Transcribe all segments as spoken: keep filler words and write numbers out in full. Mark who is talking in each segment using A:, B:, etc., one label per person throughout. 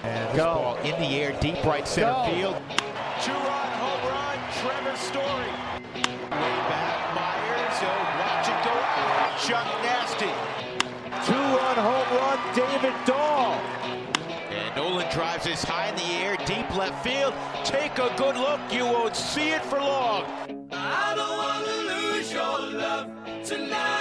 A: And this Go. ball in the air, deep right center Go. field.
B: Two-run home run, Trevor Story. Way back, Myers. He'll watch it go out. Chuck Nasty.
C: Two-run home run, David Dahl.
A: And Nolan drives this high in the air, deep left field. Take a good look. You won't see it for long.
D: I don't want to lose your love tonight.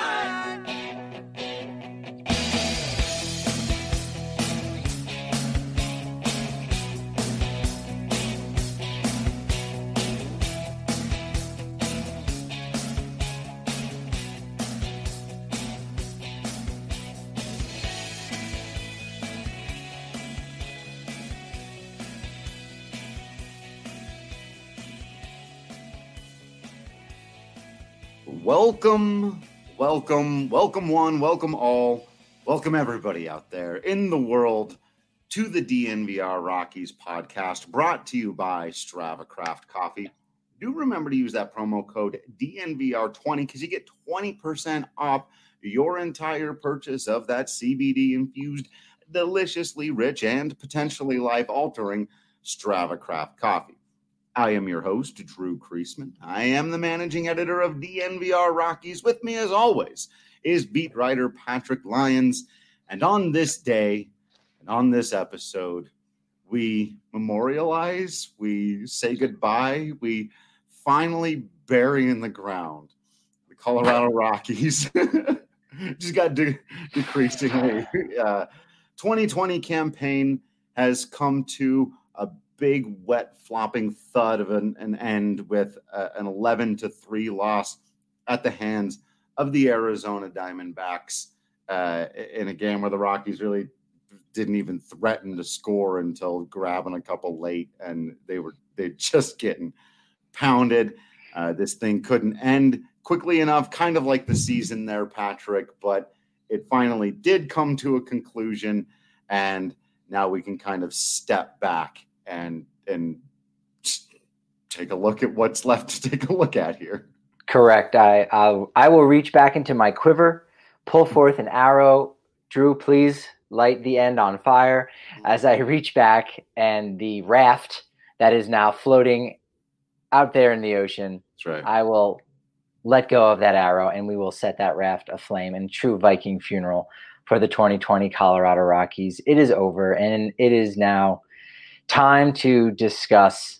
E: Welcome, welcome, welcome one, welcome all, welcome everybody out there in the world to the D N V R Rockies podcast, brought to you by Strava Craft Coffee. Do remember to use that promo code D N V R twenty because you get twenty percent off your entire purchase of that C B D-infused, deliciously rich, and potentially life-altering Strava Craft Coffee. I am your host, Drew Creasman. I am the managing editor of D N V R Rockies. With me, as always, is beat writer Patrick Lyons. And on this day, and on this episode, we memorialize, we say goodbye, we finally bury in the ground the Colorado Rockies. Just got de- decreasingly. Uh, twenty twenty campaign has come to a big, wet, flopping thud of an, an end with uh, an eleven to three loss at the hands of the Arizona Diamondbacks uh, in a game where the Rockies really didn't even threaten to score until grabbing a couple late, and they were they just getting pounded. Uh, this thing couldn't end quickly enough, kind of like the season there, Patrick, but it finally did come to a conclusion, and now we can kind of step back and and take a look at what's left to take a look at here.
F: Correct. I I, I will reach back into my quiver, pull forth an arrow. Drew, please light the end on fire as I reach back, and the raft that is now floating out there in the ocean.
E: That's right.
F: I will let go of that arrow, and we will set that raft aflame in true Viking funeral for the twenty twenty Colorado Rockies. It is over, and it is now time to discuss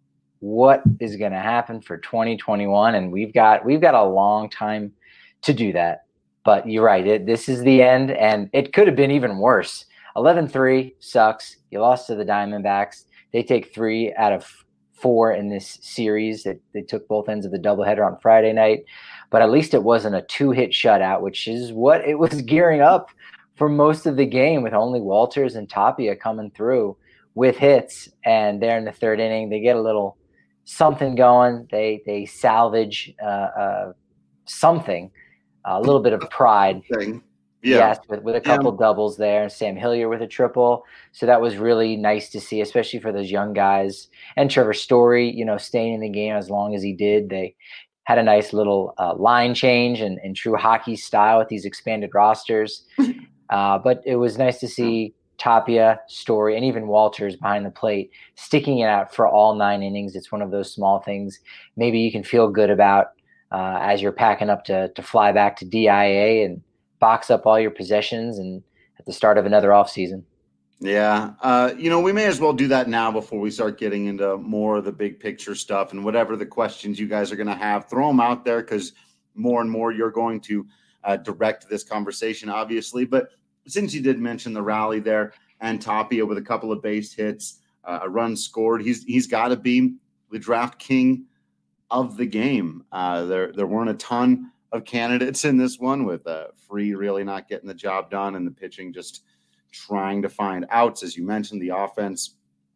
F: what is going to happen for twenty twenty-one, and we've got we've got a long time to do that. But you're right, it, this is the end, and it could have been even worse. eleven three sucks. You lost to the Diamondbacks. They take three out of four in this series. They, they took both ends of the doubleheader on Friday night, but at least it wasn't a two-hit shutout, which is what it was gearing up for most of the game, with only Walters and Tapia coming through with hits. And there in the third inning, they get a little something going. They they salvage uh, uh, something, a little bit of pride.
E: Thing. Yeah.
F: Yes, with, with a couple yeah. doubles there, and Sam Hillier with a triple. So that was really nice to see, especially for those young guys. And Trevor Story, you know, staying in the game as long as he did. They had a nice little uh, line change in, in true hockey style with these expanded rosters. uh, but it was nice to see Tapia, Story, and even Walters behind the plate, sticking it out for all nine innings. It's one of those small things maybe you can feel good about uh, as you're packing up to to fly back to D I A and box up all your possessions and at the start of another offseason.
E: Yeah. Uh, you know, we may as well do that now before we start getting into more of the big picture stuff, and whatever the questions you guys are going to have, throw them out there, because more and more you're going to uh, direct this conversation, obviously. But since you did mention the rally there and Tapia with a couple of base hits, uh, a run scored, he's he's got to be the draft king of the game. Uh, there there weren't a ton of candidates in this one, with uh, Free really not getting the job done and the pitching just trying to find outs. As you mentioned, the offense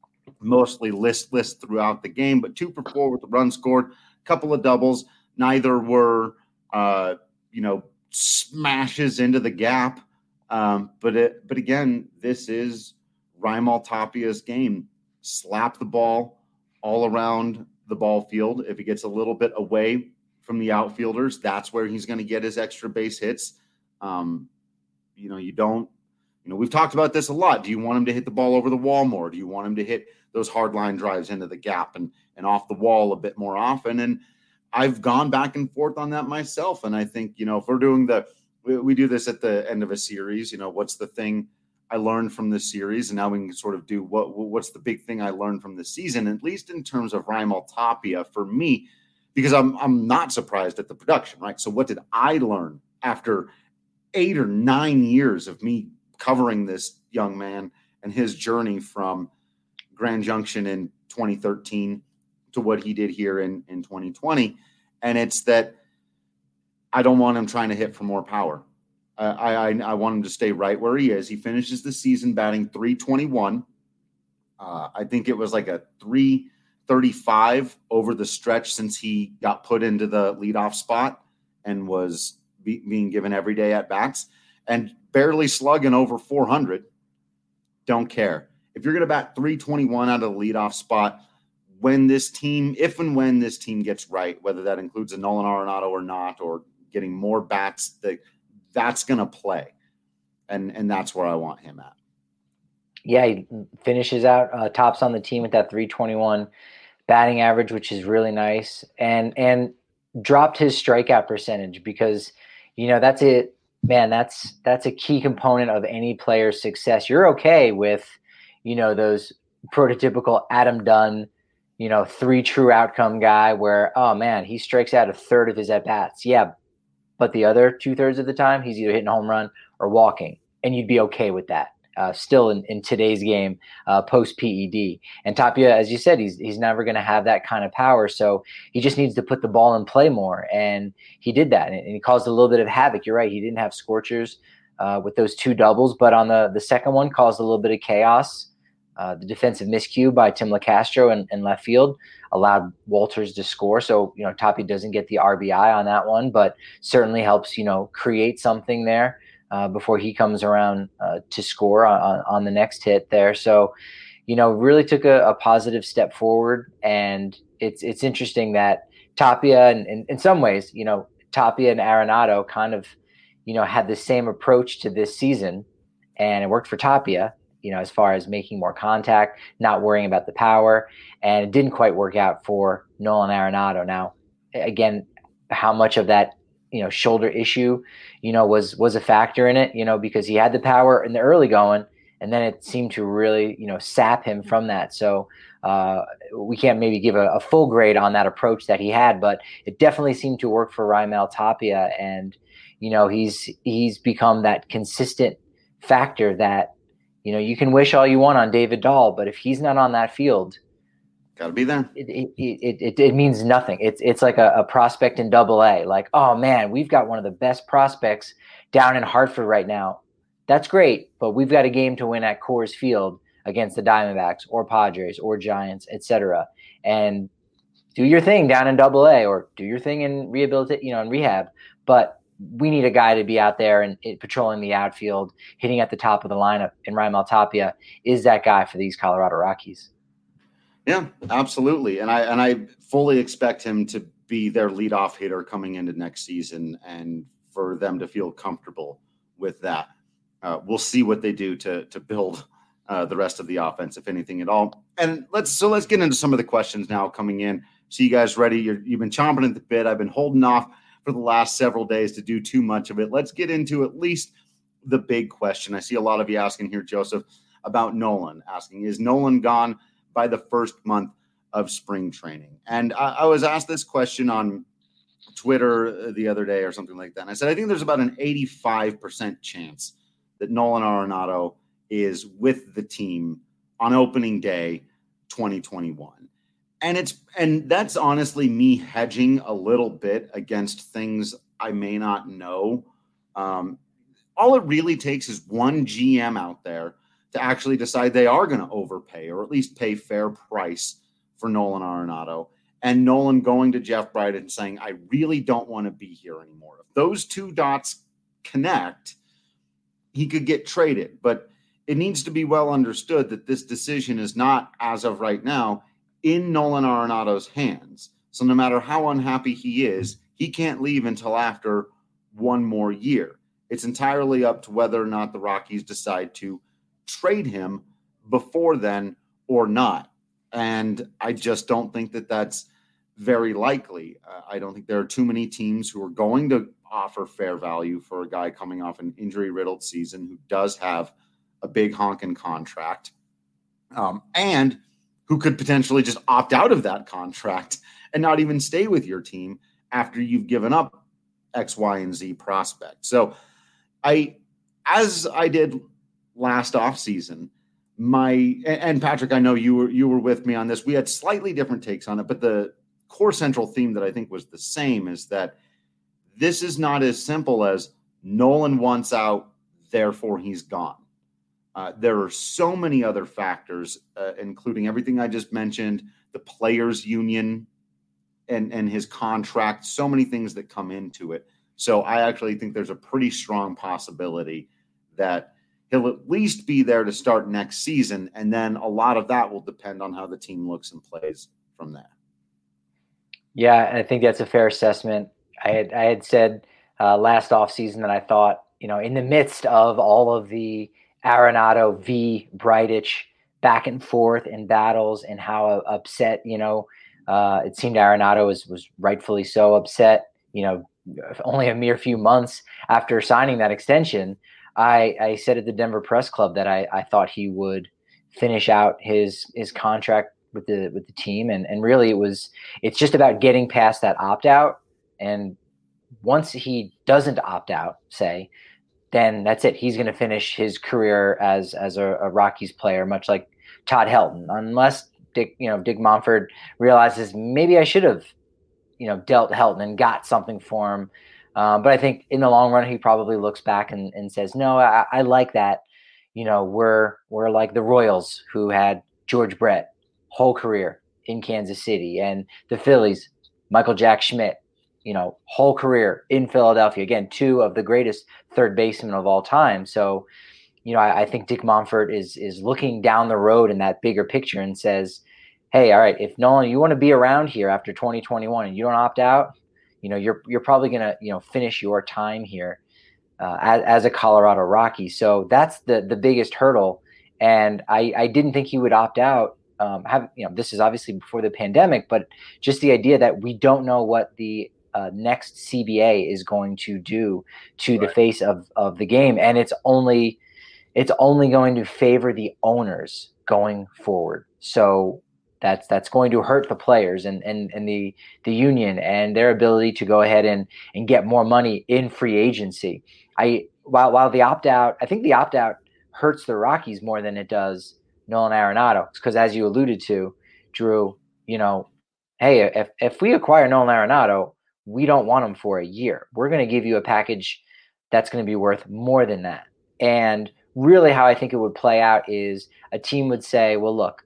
E: mostly listless throughout the game, but two for four with the run scored, a couple of doubles. Neither were, uh, you know, smashes into the gap. Um, but it, but again, this is Raimel Tapia's game. Slap the ball all around the ball field. If he gets a little bit away from the outfielders, that's where he's going to get his extra base hits. Um, you know, you don't You know, we've talked about this a lot. Do you want him to hit the ball over the wall more? Do you want him to hit those hard line drives into the gap and, and off the wall a bit more often? And I've gone back and forth on that myself. And I think, you know, if we're doing the, we, we do this at the end of a series, you know, what's the thing I learned from this series? And now we can sort of do what, what's the big thing I learned from the season, at least in terms of Raimel Tapia for me, because I'm, I'm not surprised at the production, right? So what did I learn after eight or nine years of me covering this young man and his journey from Grand Junction in twenty thirteen to what he did here in, in twenty twenty? And it's that I don't want him trying to hit for more power. Uh, I, I I want him to stay right where he is. He finishes the season batting three twenty-one. Uh, I think it was like a three thirty-five over the stretch since he got put into the leadoff spot and was be, being given every day at bats, and barely slugging over four hundred. Don't care. If you're going to bat three twenty-one out of the leadoff spot, when this team, if and when this team gets right, whether that includes a Nolan Arenado or not, or getting more bats, that that's going to play. And, and that's where I want him at.
F: Yeah, he finishes out uh, tops on the team with that three twenty-one batting average, which is really nice. And, and dropped his strikeout percentage because, you know, that's it, man, that's, that's a key component of any player's success. You're okay with, you know, those prototypical Adam Dunn, you know, three true outcome guy where, oh man, he strikes out a third of his at bats. Yeah. But the other two thirds of the time, he's either hitting a home run or walking, and you'd be okay with that. Uh, still in, in today's game, uh, post P E D. And Tapia, as you said, he's he's never going to have that kind of power. So he just needs to put the ball in play more. And he did that. And, and he caused a little bit of havoc. You're right. He didn't have scorchers uh, with those two doubles. But on the, the second one, caused a little bit of chaos. Uh, the defensive miscue by Tim LaCastro in, in left field allowed Walters to score. So, you know, Tapia doesn't get the R B I on that one, but certainly helps, you know, create something there. Uh, before he comes around uh, to score on, on the next hit there. So, you know, really took a, a positive step forward. And it's it's interesting that Tapia, and in, in some ways, you know, Tapia and Arenado kind of, you know, had the same approach to this season. And it worked for Tapia, you know, as far as making more contact, not worrying about the power. And it didn't quite work out for Nolan Arenado. Now, again, how much of that, you know, shoulder issue, you know, was, was a factor in it, you know, because he had the power in the early going, and then it seemed to really, you know, sap him from that. So uh, we can't maybe give a, a full grade on that approach that he had, but it definitely seemed to work for Raimel Tapia. And, you know, he's, he's become that consistent factor that, you know, you can wish all you want on David Dahl, but if he's not on that field,
E: got to be there.
F: It it, it it it means nothing. It's it's like a, a prospect in Double A. Like, oh man, we've got one of the best prospects down in Hartford right now. That's great, but we've got a game to win at Coors Field against the Diamondbacks or Padres or Giants, et cetera. And do your thing down in Double A, or do your thing in rehabilitate, you know, in rehab. But we need a guy to be out there and, and patrolling the outfield, hitting at the top of the lineup. And Raimel Tapia is that guy for these Colorado Rockies.
E: Yeah, absolutely. And I and I fully expect him to be their leadoff hitter coming into next season, and for them to feel comfortable with that. Uh, we'll see what they do to to build uh, the rest of the offense, if anything at all. And let's so let's get into some of the questions now coming in. So you guys ready? You're, you've been chomping at the bit. I've been holding off for the last several days to do too much of it. Let's get into at least the big question. I see a lot of you asking here, Joseph, about Nolan, asking, is Nolan gone by the first month of spring training? And I, I was asked this question on Twitter the other day or something like that. And I said, I think there's about an eighty-five percent chance that Nolan Arenado is with the team on opening day twenty twenty-one. And it's, and that's honestly me hedging a little bit against things I may not know. Um, all it really takes is one G M out there to actually decide they are going to overpay, or at least pay fair price for Nolan Arenado, and Nolan going to Jeff Bridich and saying, I really don't want to be here anymore. If those two dots connect, he could get traded. But it needs to be well understood that this decision is not, as of right now, in Nolan Arenado's hands. So no matter how unhappy he is, he can't leave until after one more year. It's entirely up to whether or not the Rockies decide to trade him before then or not. And I just don't think that that's very likely. Uh, I don't think there are too many teams who are going to offer fair value for a guy coming off an injury-riddled season who does have a big honking contract, um, and who could potentially just opt out of that contract and not even stay with your team after you've given up X, Y, and Z prospect. So I, as I did last offseason, my, and Patrick, I know you were, you were with me on this. We had slightly different takes on it, but the core central theme that I think was the same is that this is not as simple as Nolan wants out, therefore he's gone. Uh, there are so many other factors, uh, including everything I just mentioned, the players' union and, and his contract, so many things that come into it. So I actually think there's a pretty strong possibility that he'll at least be there to start next season, and then a lot of that will depend on how the team looks and plays from there.
F: Yeah, I think that's a fair assessment. I had I had said uh, last offseason that I thought, you know, in the midst of all of the Arenado v. Bridich back and forth and battles and how upset, you know, uh, it seemed Arenado was, was rightfully so upset, you know, only a mere few months after signing that extension. I, I said at the Denver Press Club that I, I thought he would finish out his his contract with the with the team, and and really it was it's just about getting past that opt out, and once he doesn't opt out, say, then that's it. He's going to finish his career as as a, a Rockies player, much like Todd Helton, unless Dick you know Dick Monfort realizes maybe I should have you know dealt Helton and got something for him. Um, but I think in the long run, he probably looks back and, and says, no, I, I like that. You know, we're we're like the Royals, who had George Brett whole career in Kansas City, and the Phillies, Michael Jack Schmidt, you know, whole career in Philadelphia. Again, two of the greatest third basemen of all time. So, you know, I, I think Dick Monfort is is looking down the road in that bigger picture and says, hey, all right, if Nolan, you want to be around here after twenty twenty-one and you don't opt out, you know, you're you're probably going to, you know, finish your time here uh, as, as a Colorado Rocky. So that's the the biggest hurdle. And I, I didn't think he would opt out. Um, have you know, this is obviously before the pandemic, but just the idea that we don't know what the uh, next C B A is going to do to right. the face of of the game, and it's only it's only going to favor the owners going forward. So That's that's going to hurt the players and, and, and the the union and their ability to go ahead and, and get more money in free agency. I while while the opt out, I think the opt out hurts the Rockies more than it does Nolan Arenado, because as you alluded to, Drew, you know, hey, if if we acquire Nolan Arenado, we don't want him for a year. We're going to give you a package that's going to be worth more than that. And really, how I think it would play out is a team would say, well, look,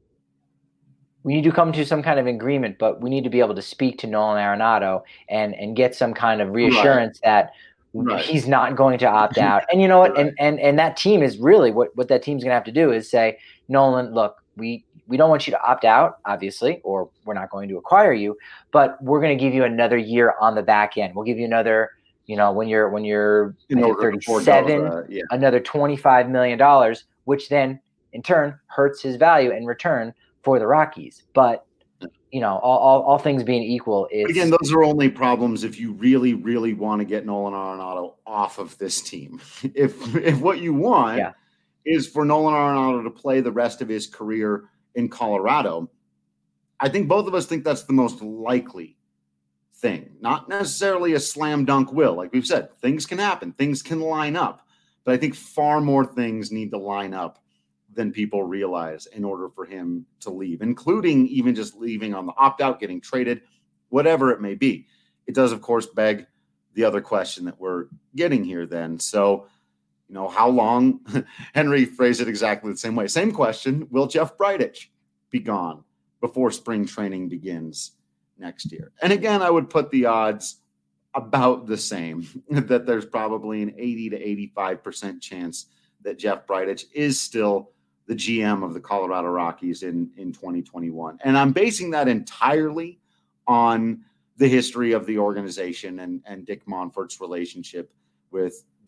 F: we need to come to some kind of agreement, but we need to be able to speak to Nolan Arenado and, and get some kind of reassurance right. that right. he's not going to opt out. And you know what? Right. And, and, and that team is really what, what that team's going to have to do is say, Nolan, look, we, we don't want you to opt out, obviously, or we're not going to acquire you, but we're going to give you another year on the back end. We'll give you another, you know, when you're, when you're thirty-seven, uh, yeah. another twenty-five million dollars, which then in turn hurts his value in return for the Rockies. But, you know, all, all, all things being equal, it's,
E: again, those are only problems if you really, really want to get Nolan Arenado off of this team. If if what you want yeah. is for Nolan Arenado to play the rest of his career in Colorado, I think both of us think that's the most likely thing. Not necessarily a slam dunk will. Like we've said, things can happen. Things can line up. But I think far more things need to line up than people realize in order for him to leave, including even just leaving on the opt-out, getting traded, whatever it may be. It does, of course, beg the other question that we're getting here then. So, you know, how long? Henry phrased it exactly the same way. Same question. Will Jeff Bridich be gone before spring training begins next year? And again, I would put the odds about the same, that there's probably an eighty to eighty-five percent chance that Jeff Bridich is still the G M of the Colorado Rockies in, in twenty twenty-one. And I'm basing that entirely on the history of the organization and, and Dick Monfort's relationship with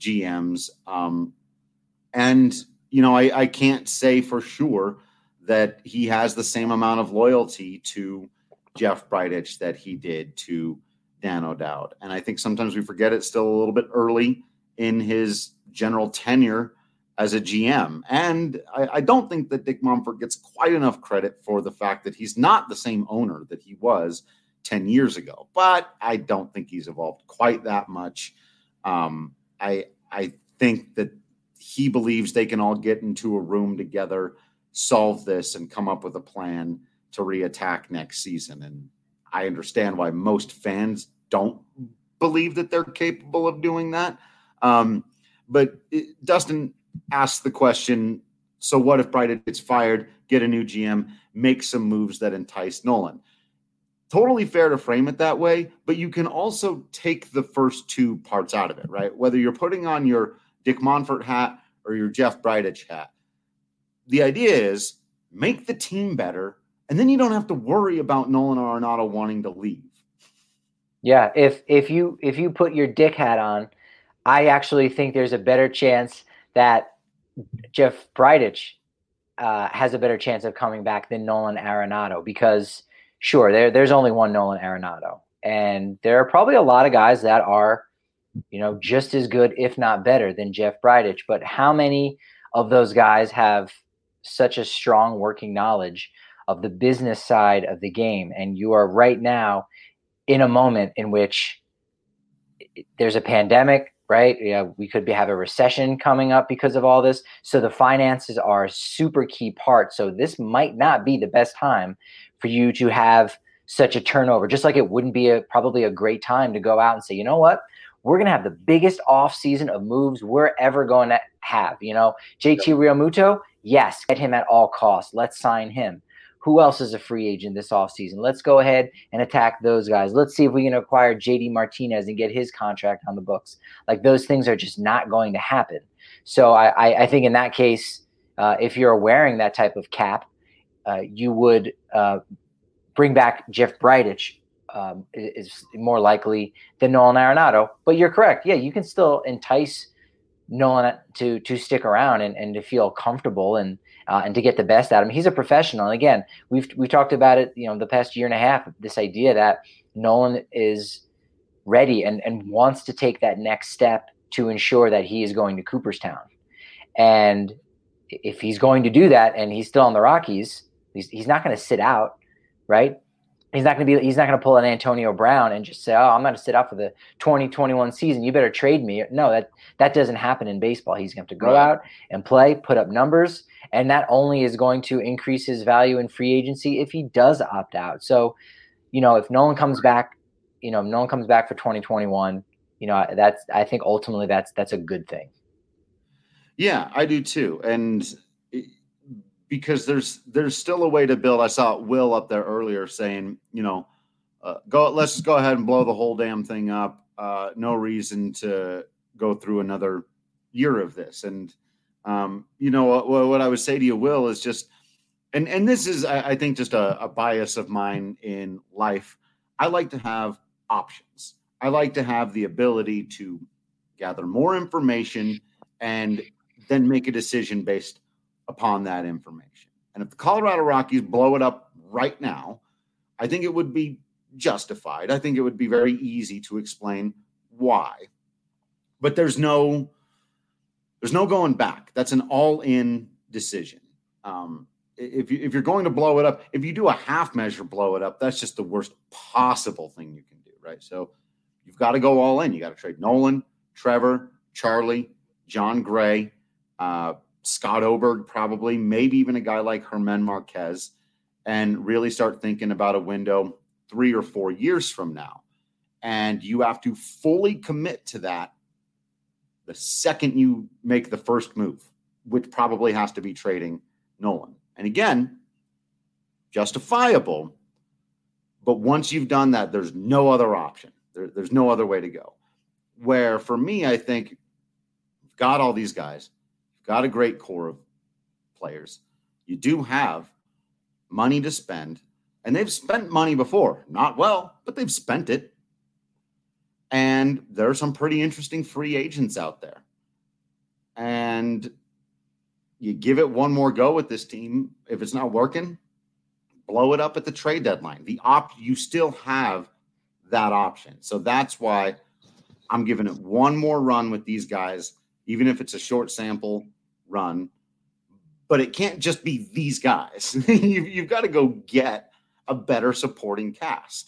E: G Ms. Um, and, you know, I, I can't say for sure that he has the same amount of loyalty to Jeff Bridich that he did to Dan O'Dowd. And I think sometimes we forget it's still a little bit early in his general tenure as a G M. And I, I don't think that Dick Monfort gets quite enough credit for the fact that he's not the same owner that he was ten years ago. But I don't think he's evolved quite that much. Um, I I think that he believes they can all get into a room together, solve this, and come up with a plan to reattack next season. And I understand why most fans don't believe that they're capable of doing that. Um, but it, Dustin asked the question, so what if Bridich gets fired, get a new G M, make some moves that entice Nolan? Totally fair to frame it that way, but you can also take the first two parts out of it, right? Whether you're putting on your Dick Monfort hat or your Jeff Bridich hat. The idea is make the team better, and then you don't have to worry about Nolan Arenado wanting to leave.
F: Yeah, if if you if you put your Dick hat on, I actually think there's a better chance that Jeff Bridich uh, has a better chance of coming back than Nolan Arenado, because sure, there there's only one Nolan Arenado, and there are probably a lot of guys that are, you know, just as good, if not better, than Jeff Bridich. But how many of those guys have such a strong working knowledge of the business side of the game? And you are right now in a moment in which there's a pandemic, right? Yeah, we could be, have a recession coming up because of all this. So the finances are a super key part. So this might not be the best time for you to have such a turnover, just like it wouldn't be a, probably a great time to go out and say, you know what, we're going to have the biggest off season of moves we're ever going to have. You know, J T Realmuto, yes, get him at all costs. Let's sign him. Who else is a free agent this offseason? Let's go ahead and attack those guys. Let's see if we can acquire J D Martinez and get his contract on the books. Like, those things are just not going to happen. So I, I, I think in that case, uh, if you're wearing that type of cap, uh, you would uh, bring back Jeff Bridich um, is more likely than Nolan Arenado. But you're correct. Yeah, you can still entice Nolan to to stick around and, and to feel comfortable and uh, and to get the best out of him. He's a professional. And again, we've we talked about it, you know, the past year and a half, this idea that Nolan is ready and, and wants to take that next step to ensure that he is going to Cooperstown. And if he's going to do that and he's still on the Rockies, he's, he's not going to sit out, right? He's not going to be. He's not going to pull an Antonio Brown and just say, "Oh, I'm going to sit out for the twenty twenty-one season. You better trade me." No, that that doesn't happen in baseball. He's going to have to go
E: Right.
F: out and play, put up numbers, and that only is going to increase his value in free agency if he does opt out. So, you know, if Nolan comes back, you know, if Nolan comes back for twenty twenty-one, you know, that's. I think ultimately that's that's a good thing.
E: Yeah, I do too. And because there's there's still a way to build. I saw Will up there earlier saying, you know, uh, go let's just go ahead and blow the whole damn thing up. Uh, no reason to go through another year of this. And um, you know what, what I would say to you, Will, is just, and and this is I, I think just a, a bias of mine in life. I like to have options. I like to have the ability to gather more information and then make a decision based upon that information. And if the Colorado Rockies blow it up right now, I think it would be justified. I think it would be very easy to explain why. But there's no there's no going back. That's an all-in decision. Um, if you if you're going to blow it up, if you do a half measure blow it up, that's just the worst possible thing you can do, right? So you've got to go all in. You got to trade Nolan, Trevor, Charlie, John Gray, uh, Scott Oberg, probably, maybe even a guy like German Marquez, and really start thinking about a window three or four years from now. And you have to fully commit to that the second you make the first move, which probably has to be trading Nolan. And again, justifiable, but once you've done that, there's no other option. There, there's no other way to go. Where for me, I think you've got all these guys, you've got a great core of players. You do have money to spend, and they've spent money before. Not well, but they've spent it. And there are some pretty interesting free agents out there. and you give it one more go with this team. If it's not working, blow it up at the trade deadline. The op you still have that option. So that's why I'm giving it one more run with these guys, even if it's a short sample run. But it can't just be these guys. you've, you've got to go get a better supporting cast.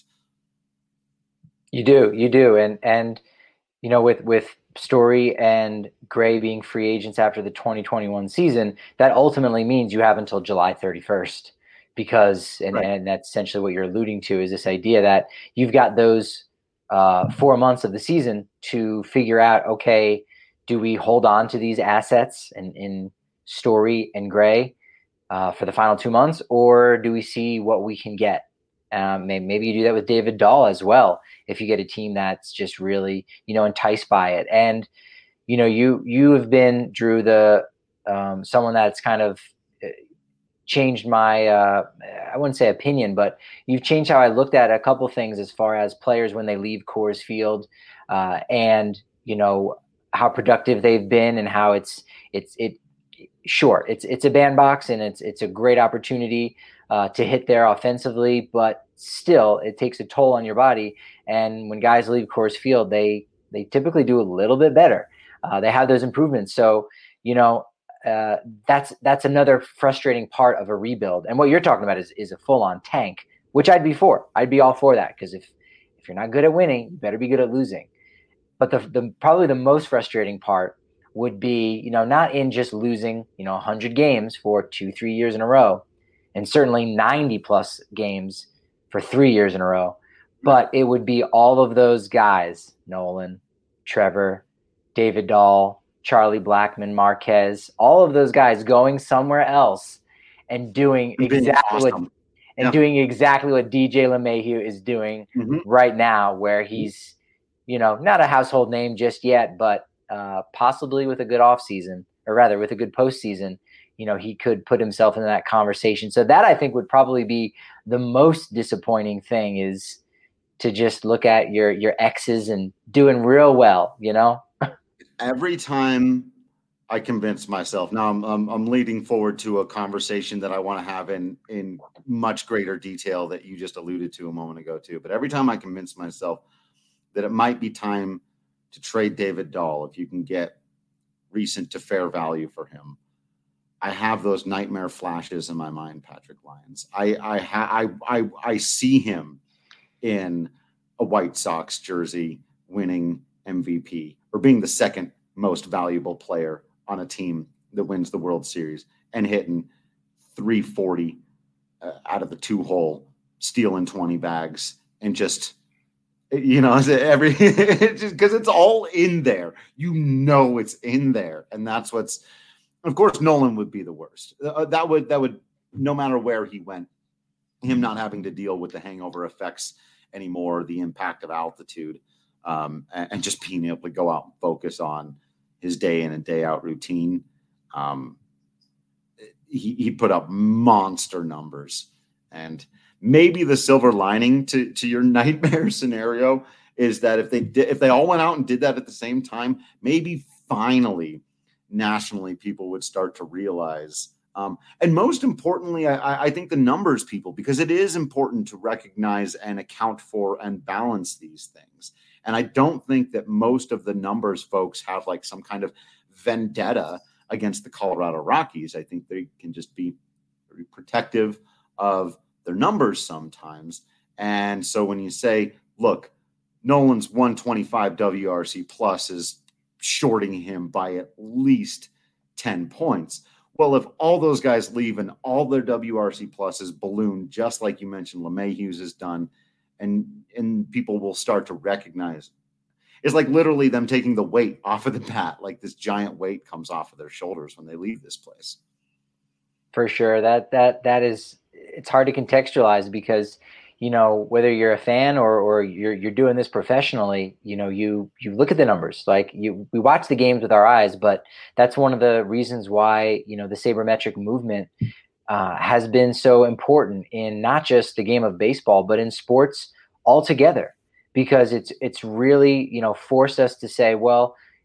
F: You do, you do, and and you know, with with Story and Gray being free agents after the twenty twenty-one season, that ultimately means you have until July thirty-first, because and,
E: right.
F: and that's essentially what you're alluding to, is this idea that you've got those uh, four months of the season to figure out, okay, do we hold on to these assets in, in Story and Gray uh, for the final two months, or do we see what we can get? Um, maybe, maybe you do that with David Dahl as well, if you get a team that's just really, you know, enticed by it. And, you know, you you have been, Drew, the um, someone that's kind of changed my, uh, I wouldn't say opinion, but you've changed how I looked at a couple things as far as players when they leave Coors Field, uh, and, you know, how productive they've been, and how it's it's it sure it's it's a bandbox, and it's it's a great opportunity uh, to hit there offensively, but still it takes a toll on your body. And when guys leave Coors Field, they they typically do a little bit better. Uh, they have those improvements. So, you know, uh, that's that's another frustrating part of a rebuild. And what you're talking about is is a full on tank, which I'd be for. I'd be all for that, because if if you're not good at winning, you better be good at losing. But the the probably the most frustrating part would be, you know, not in just losing, you know, one hundred games for two, three years in a row, and certainly ninety plus games for three years in a row, but it would be all of those guys, Nolan, Trevor, David Dahl, Charlie Blackmon, Marquez, all of those guys going somewhere else and doing exactly
E: awesome.
F: what and yeah. doing exactly what D J LeMahieu is doing mm-hmm. right now, where he's, you know, not a household name just yet, but uh, possibly with a good offseason, or rather with a good postseason, you know, he could put himself in that conversation. So that, I think, would probably be the most disappointing thing, is to just look at your your exes and doing real well, you know?
E: Every time I convince myself, now I'm, I'm I'm leading forward to a conversation that I want to have in in much greater detail that you just alluded to a moment ago too. But every time I convince myself that it might be time to trade David Dahl, if you can get recent to fair value for him, I have those nightmare flashes in my mind, Patrick Lyons. I I ha- I, I I see him in a White Sox jersey winning M V P, or being the second most valuable player on a team that wins the World Series, and hitting three forty uh, out of the two hole, stealing twenty bags, and just, you know, every because it's all in there. You know, it's in there, and that's what's. Of course, Nolan would be the worst. Uh, that would that would no matter where he went, him not having to deal with the hangover effects anymore, the impact of altitude, um, and, and just being able to go out and focus on his day in and day out routine. Um, he, he put up monster numbers, and maybe the silver lining to to your nightmare scenario is that if they did, if they all went out and did that at the same time, maybe finally, nationally, people would start to realize, um, and most importantly, I, I think the numbers people, because it is important to recognize and account for and balance these things. And I don't think that most of the numbers folks have like some kind of vendetta against the Colorado Rockies. I think they can just be very protective of their numbers sometimes. And so when you say, look, Nolan's one twenty-five W R C plus is shorting him by at least ten points. Well, if all those guys leave and all their W R C pluses balloon, just like you mentioned LeMahieu's has done, and and people will start to recognize, it's like literally them taking the weight off of the bat, like this giant weight comes off of their shoulders when they leave this place.
F: For sure. That that that is, it's hard to contextualize, because, you know, whether you're a fan or or you're you're doing this professionally, you know, you you look at the numbers. Like you, we watch the games with our eyes, but that's one of the reasons why, you know, the sabermetric movement uh, has been so important in not just the game of baseball, but in sports altogether, because it's it's really, you know, forced us to say, well,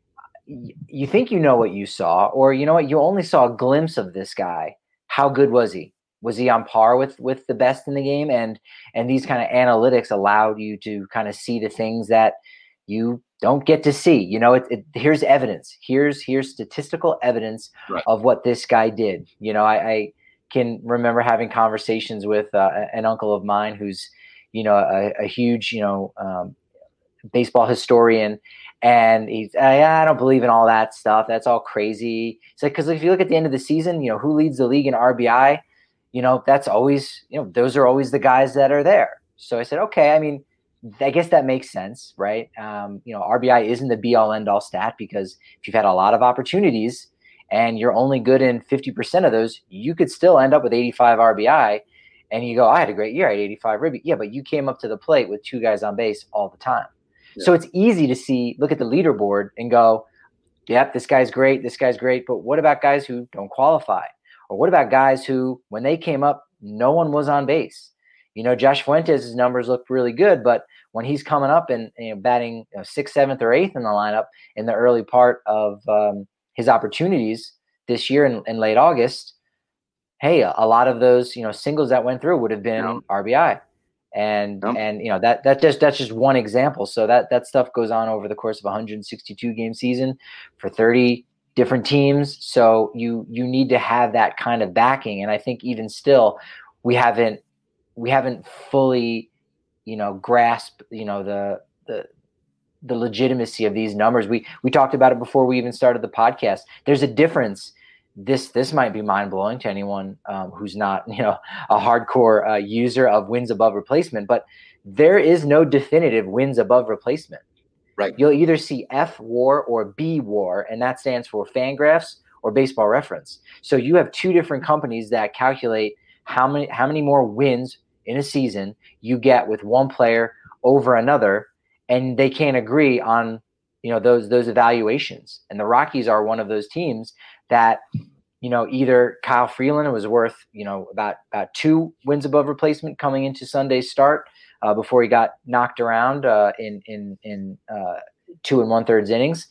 F: you think you know what you saw, or you know what, you only saw a glimpse of this guy. How good was he? Was he on par with with the best in the game? And and these kind of analytics allowed you to kind of see the things that you don't get to see. You know, it, it, here's evidence. Here's here's statistical evidence
E: right.
F: of what this guy did. You know, I, I can remember having conversations with uh, an uncle of mine who's, you know, a, a huge, you know, um, baseball historian. And he's, I, I don't believe in all that stuff. That's all crazy. It's like, because if you look at the end of the season, you know, who leads the league in R B I, you know, that's always, you know, those are always the guys that are there. So I said, okay, I mean, I guess that makes sense, right? Um, you know, R B I isn't the be all end all stat, because if you've had a lot of opportunities and you're only good in fifty percent of those, you could still end up with eighty-five R B I. And you go, I had a great year. I had eighty-five ribby. Yeah, but you came up to the plate with two guys on base all the time. Yeah. So it's easy to see, look at the leaderboard and go, yep, this guy's great. This guy's great. But what about guys who don't qualify? Or what about guys who, when they came up, no one was on base? You know, Josh Fuentes' numbers look really good, but when he's coming up and, you know, batting you know, sixth, seventh, or eighth in the lineup in the early part of um, his opportunities this year in, in late August, hey, a lot of those, you know, singles that went through would have been yep. R B I. And, yep. and, you know, that, that just, that's just one example. So that, that stuff goes on over the course of a one hundred sixty-two game season for thirty different teams. So you, you need to have that kind of backing. And I think even still, we haven't, we haven't fully, you know, grasped, you know, the, the, the legitimacy of these numbers. We, we talked about it before we even started the podcast. There's a difference. This this might be mind blowing to anyone um, who's not, you know, a hardcore uh, user of wins above replacement. But there is no definitive wins above replacement.
E: Right.
F: You'll either see F WAR or B WAR, and that stands for Fangraphs or Baseball Reference. So you have two different companies that calculate how many how many more wins in a season you get with one player over another, and they can't agree on, you know, those those evaluations. And the Rockies are one of those teams that, you know, either Kyle Freeland was worth, you know, about, about two wins above replacement coming into Sunday's start uh, before he got knocked around uh, in in in uh, two and one thirds innings,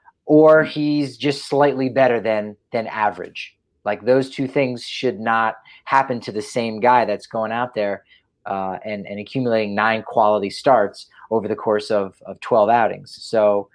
F: or he's just slightly better than than average. Like, those two things should not happen to the same guy that's going out there uh, and and accumulating nine quality starts over the course of of twelve outings. So,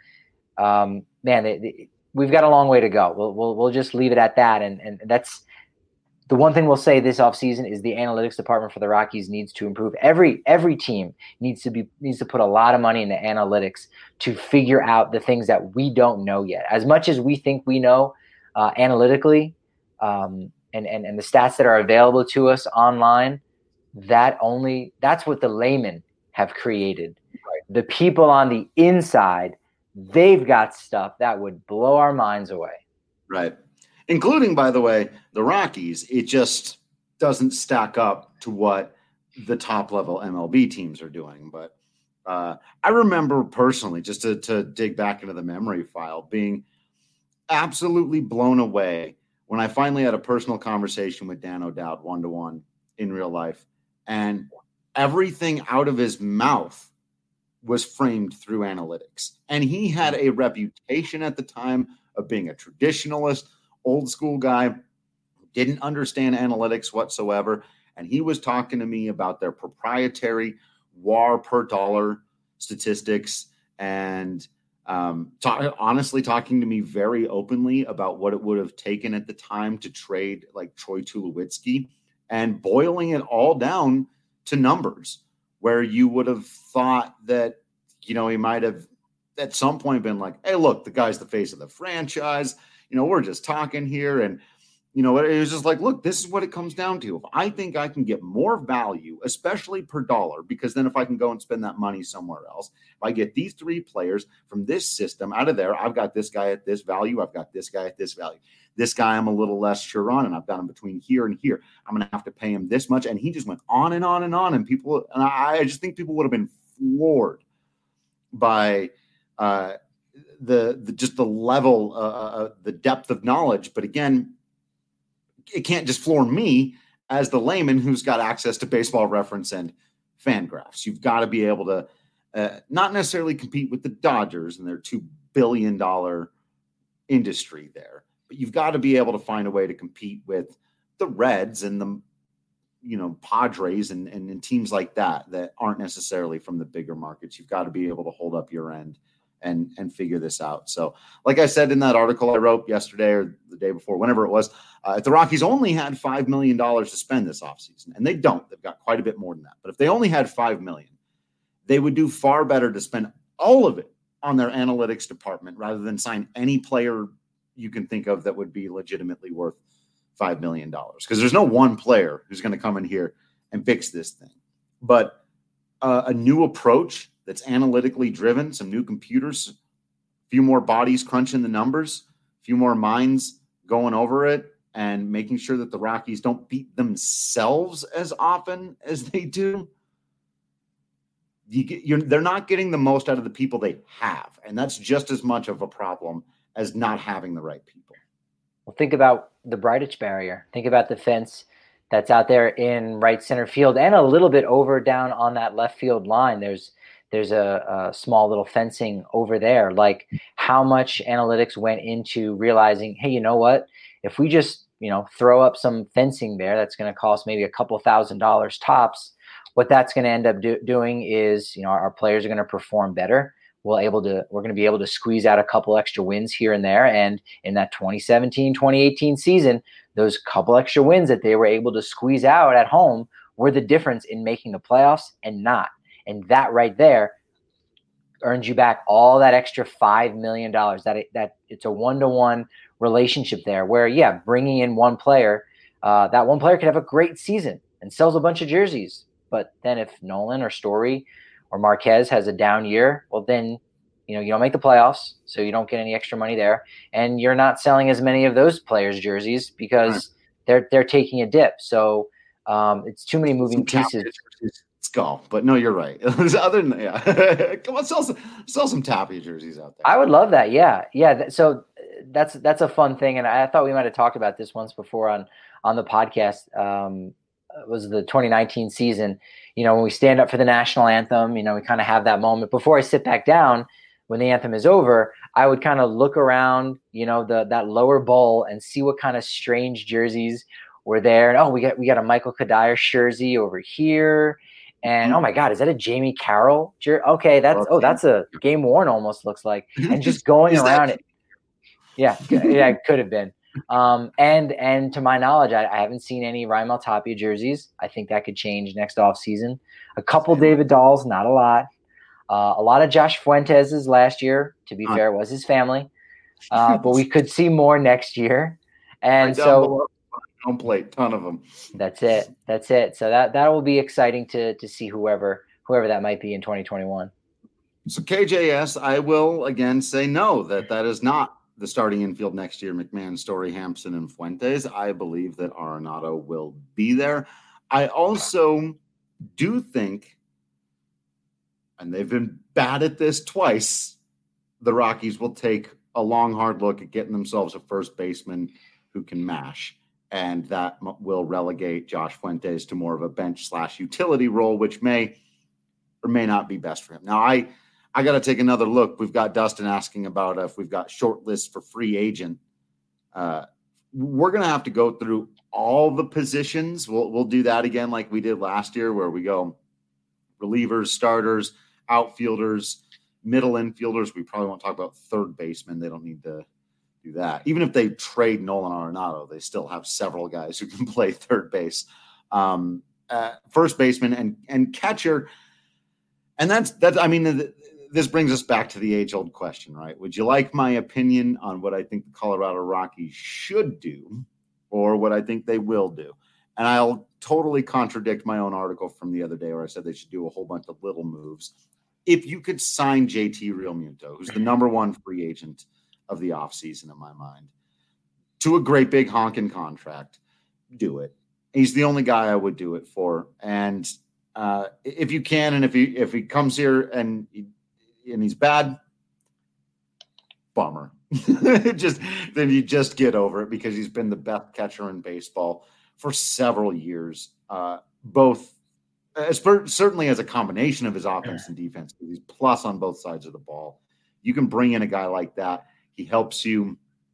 F: um, man, they, they, we've got a long way to go. We'll we'll we'll just leave it at that. And and that's the one thing we'll say this offseason is the analytics department for the Rockies needs to improve. Every every team needs to be needs to put a lot of money into analytics to figure out the things that we don't know yet. As much as we think we know uh, analytically, um, and and and the stats that are available to us online, that only that's what the laymen have created. Right. The people on the inside, they've got stuff that would blow our minds away.
E: Right. Including, by the way, the Rockies. It just doesn't stack up to what the top level M L B teams are doing. But uh, I remember personally, just to, to dig back into the memory file, being absolutely blown away when I finally had a personal conversation with Dan O'Dowd one-to-one in real life. And everything out of his mouth was framed through analytics. And he had a reputation at the time of being a traditionalist, old school guy, didn't understand analytics whatsoever. And he was talking to me about their proprietary W A R per dollar statistics and um, ta- honestly talking to me very openly about what it would have taken at the time to trade like Troy Tulowitzki, and boiling it all down to numbers, where you would have thought that, you know, he might have at some point been like, hey, look, the guy's the face of the franchise. You know, we're just talking here. And, you know, it was just like, look, this is what it comes down to. If I think I can get more value, especially per dollar, because then if I can go and spend that money somewhere else, if I get these three players from this system out of there, I've got this guy at this value. I've got this guy at this value. This guy I'm a little less sure on, and I've got him between here and here. I'm going to have to pay him this much. And he just went on and on and on. And people, and I, I just think people would have been floored by uh, the, the just the level, uh, uh, the depth of knowledge. But again, it can't just floor me as the layman who's got access to Baseball Reference and Fangraphs. You've got to be able to uh, not necessarily compete with the Dodgers and their two billion dollars industry there. But you've got to be able to find a way to compete with the Reds and the, you know, Padres and, and, and teams like that that aren't necessarily from the bigger markets. You've got to be able to hold up your end and and figure this out. So like I said in that article I wrote yesterday or the day before, whenever it was, uh, if the Rockies only had five million dollars to spend this offseason, and they don't, they've got quite a bit more than that. But if they only had five million dollars, they would do far better to spend all of it on their analytics department rather than sign any player you can think of that would be legitimately worth five million dollars. Because there's no one player who's going to come in here and fix this thing. But uh, a new approach that's analytically driven, some new computers, a few more bodies crunching the numbers, a few more minds going over it, and making sure that the Rockies don't beat themselves as often as they do. You get, you're, they're not getting the most out of the people they have, and that's just as much of a problem as not having the right people.
F: Well, think about the Breitich barrier. Think about the fence that's out there in right center field and a little bit over down on that left field line. There's There's a, a small little fencing over there. Like, how much analytics went into realizing, hey, you know what? If we just, you know, throw up some fencing there, that's going to cost maybe a couple thousand dollars tops. What that's going to end up do- doing is, you know, our, our players are going to perform better. We'll able to, we're going to be able to squeeze out a couple extra wins here and there. And in that twenty seventeen, twenty eighteen season, those couple extra wins that they were able to squeeze out at home were the difference in making the playoffs and not. And that right there earns you back all that extra five million dollars. That it, that it's a one-to-one relationship there where, yeah, bringing in one player, uh, that one player could have a great season and sells a bunch of jerseys. But then if Nolan or Story or Marquez has a down year, well, then, you know, you don't make the playoffs, so you don't get any extra money there. And you're not selling as many of those players' jerseys because right. they're they're taking a dip. So um, it's too many moving Some pieces.
E: Let's go. But no, you're right. Other than yeah, come on, sell some sell some Tapia jerseys out there.
F: I would love that. Yeah, yeah. So that's that's a fun thing, and I thought we might have talked about this once before on on the podcast. Um, it was the twenty nineteen season. You know, when we stand up for the national anthem, you know, we kind of have that moment before I sit back down. When the anthem is over, I would kind of look around, you know, the that lower bowl and see what kind of strange jerseys were there. And oh, we got we got a Michael Kadire jersey over here. And oh my God, is that a Jamie Carroll? Okay, that's oh, that's a game worn almost looks like. And just going around it, yeah, yeah, it could have been. Um, and and to my knowledge, I, I haven't seen any Raimel Tapia jerseys. I think that could change next off season. A couple David Dahls, not a lot. Uh, a lot of Josh Fuentes's last year. To be fair, was his family, uh, but we could see more next year. And so.
E: Home plate, ton of them.
F: That's it. That's it. So that that will be exciting to to see whoever whoever that might be in twenty twenty-one.
E: So K J S, I will again say no, that that is not the starting infield next year. McMahon, Story, Hampson, and Fuentes. I believe that Arenado will be there. I also do think, and they've been bad at this twice, the Rockies will take a long, hard look at getting themselves a first baseman who can mash. And that will relegate Josh Fuentes to more of a bench slash utility role, which may or may not be best for him. Now, I I got to take another look. We've got Dustin asking about if we've got short lists for free agent. Uh, we're going to have to go through all the positions. We'll we'll do that again like we did last year, where we go relievers, starters, outfielders, middle infielders. We probably won't talk about third baseman. They don't need to do that. Even if they trade Nolan Arenado, they still have several guys who can play third base, um, uh, first baseman, and and catcher. And that's that's. I mean, th- this brings us back to the age-old question, right? Would you like my opinion on what I think the Colorado Rockies should do, or what I think they will do? And I'll totally contradict my own article from the other day where I said they should do a whole bunch of little moves. If you could sign J T Realmuto, who's the number one free agent of the offseason in my mind, to a great big honking contract, do it. He's the only guy I would do it for. And uh, if you can, and if he if he comes here and he, and he's bad, bummer. just then you just get over it, because he's been the best catcher in baseball for several years, uh, both as per, certainly as a combination of his offense and defense. He's plus on both sides of the ball. You can bring in a guy like that. He helps you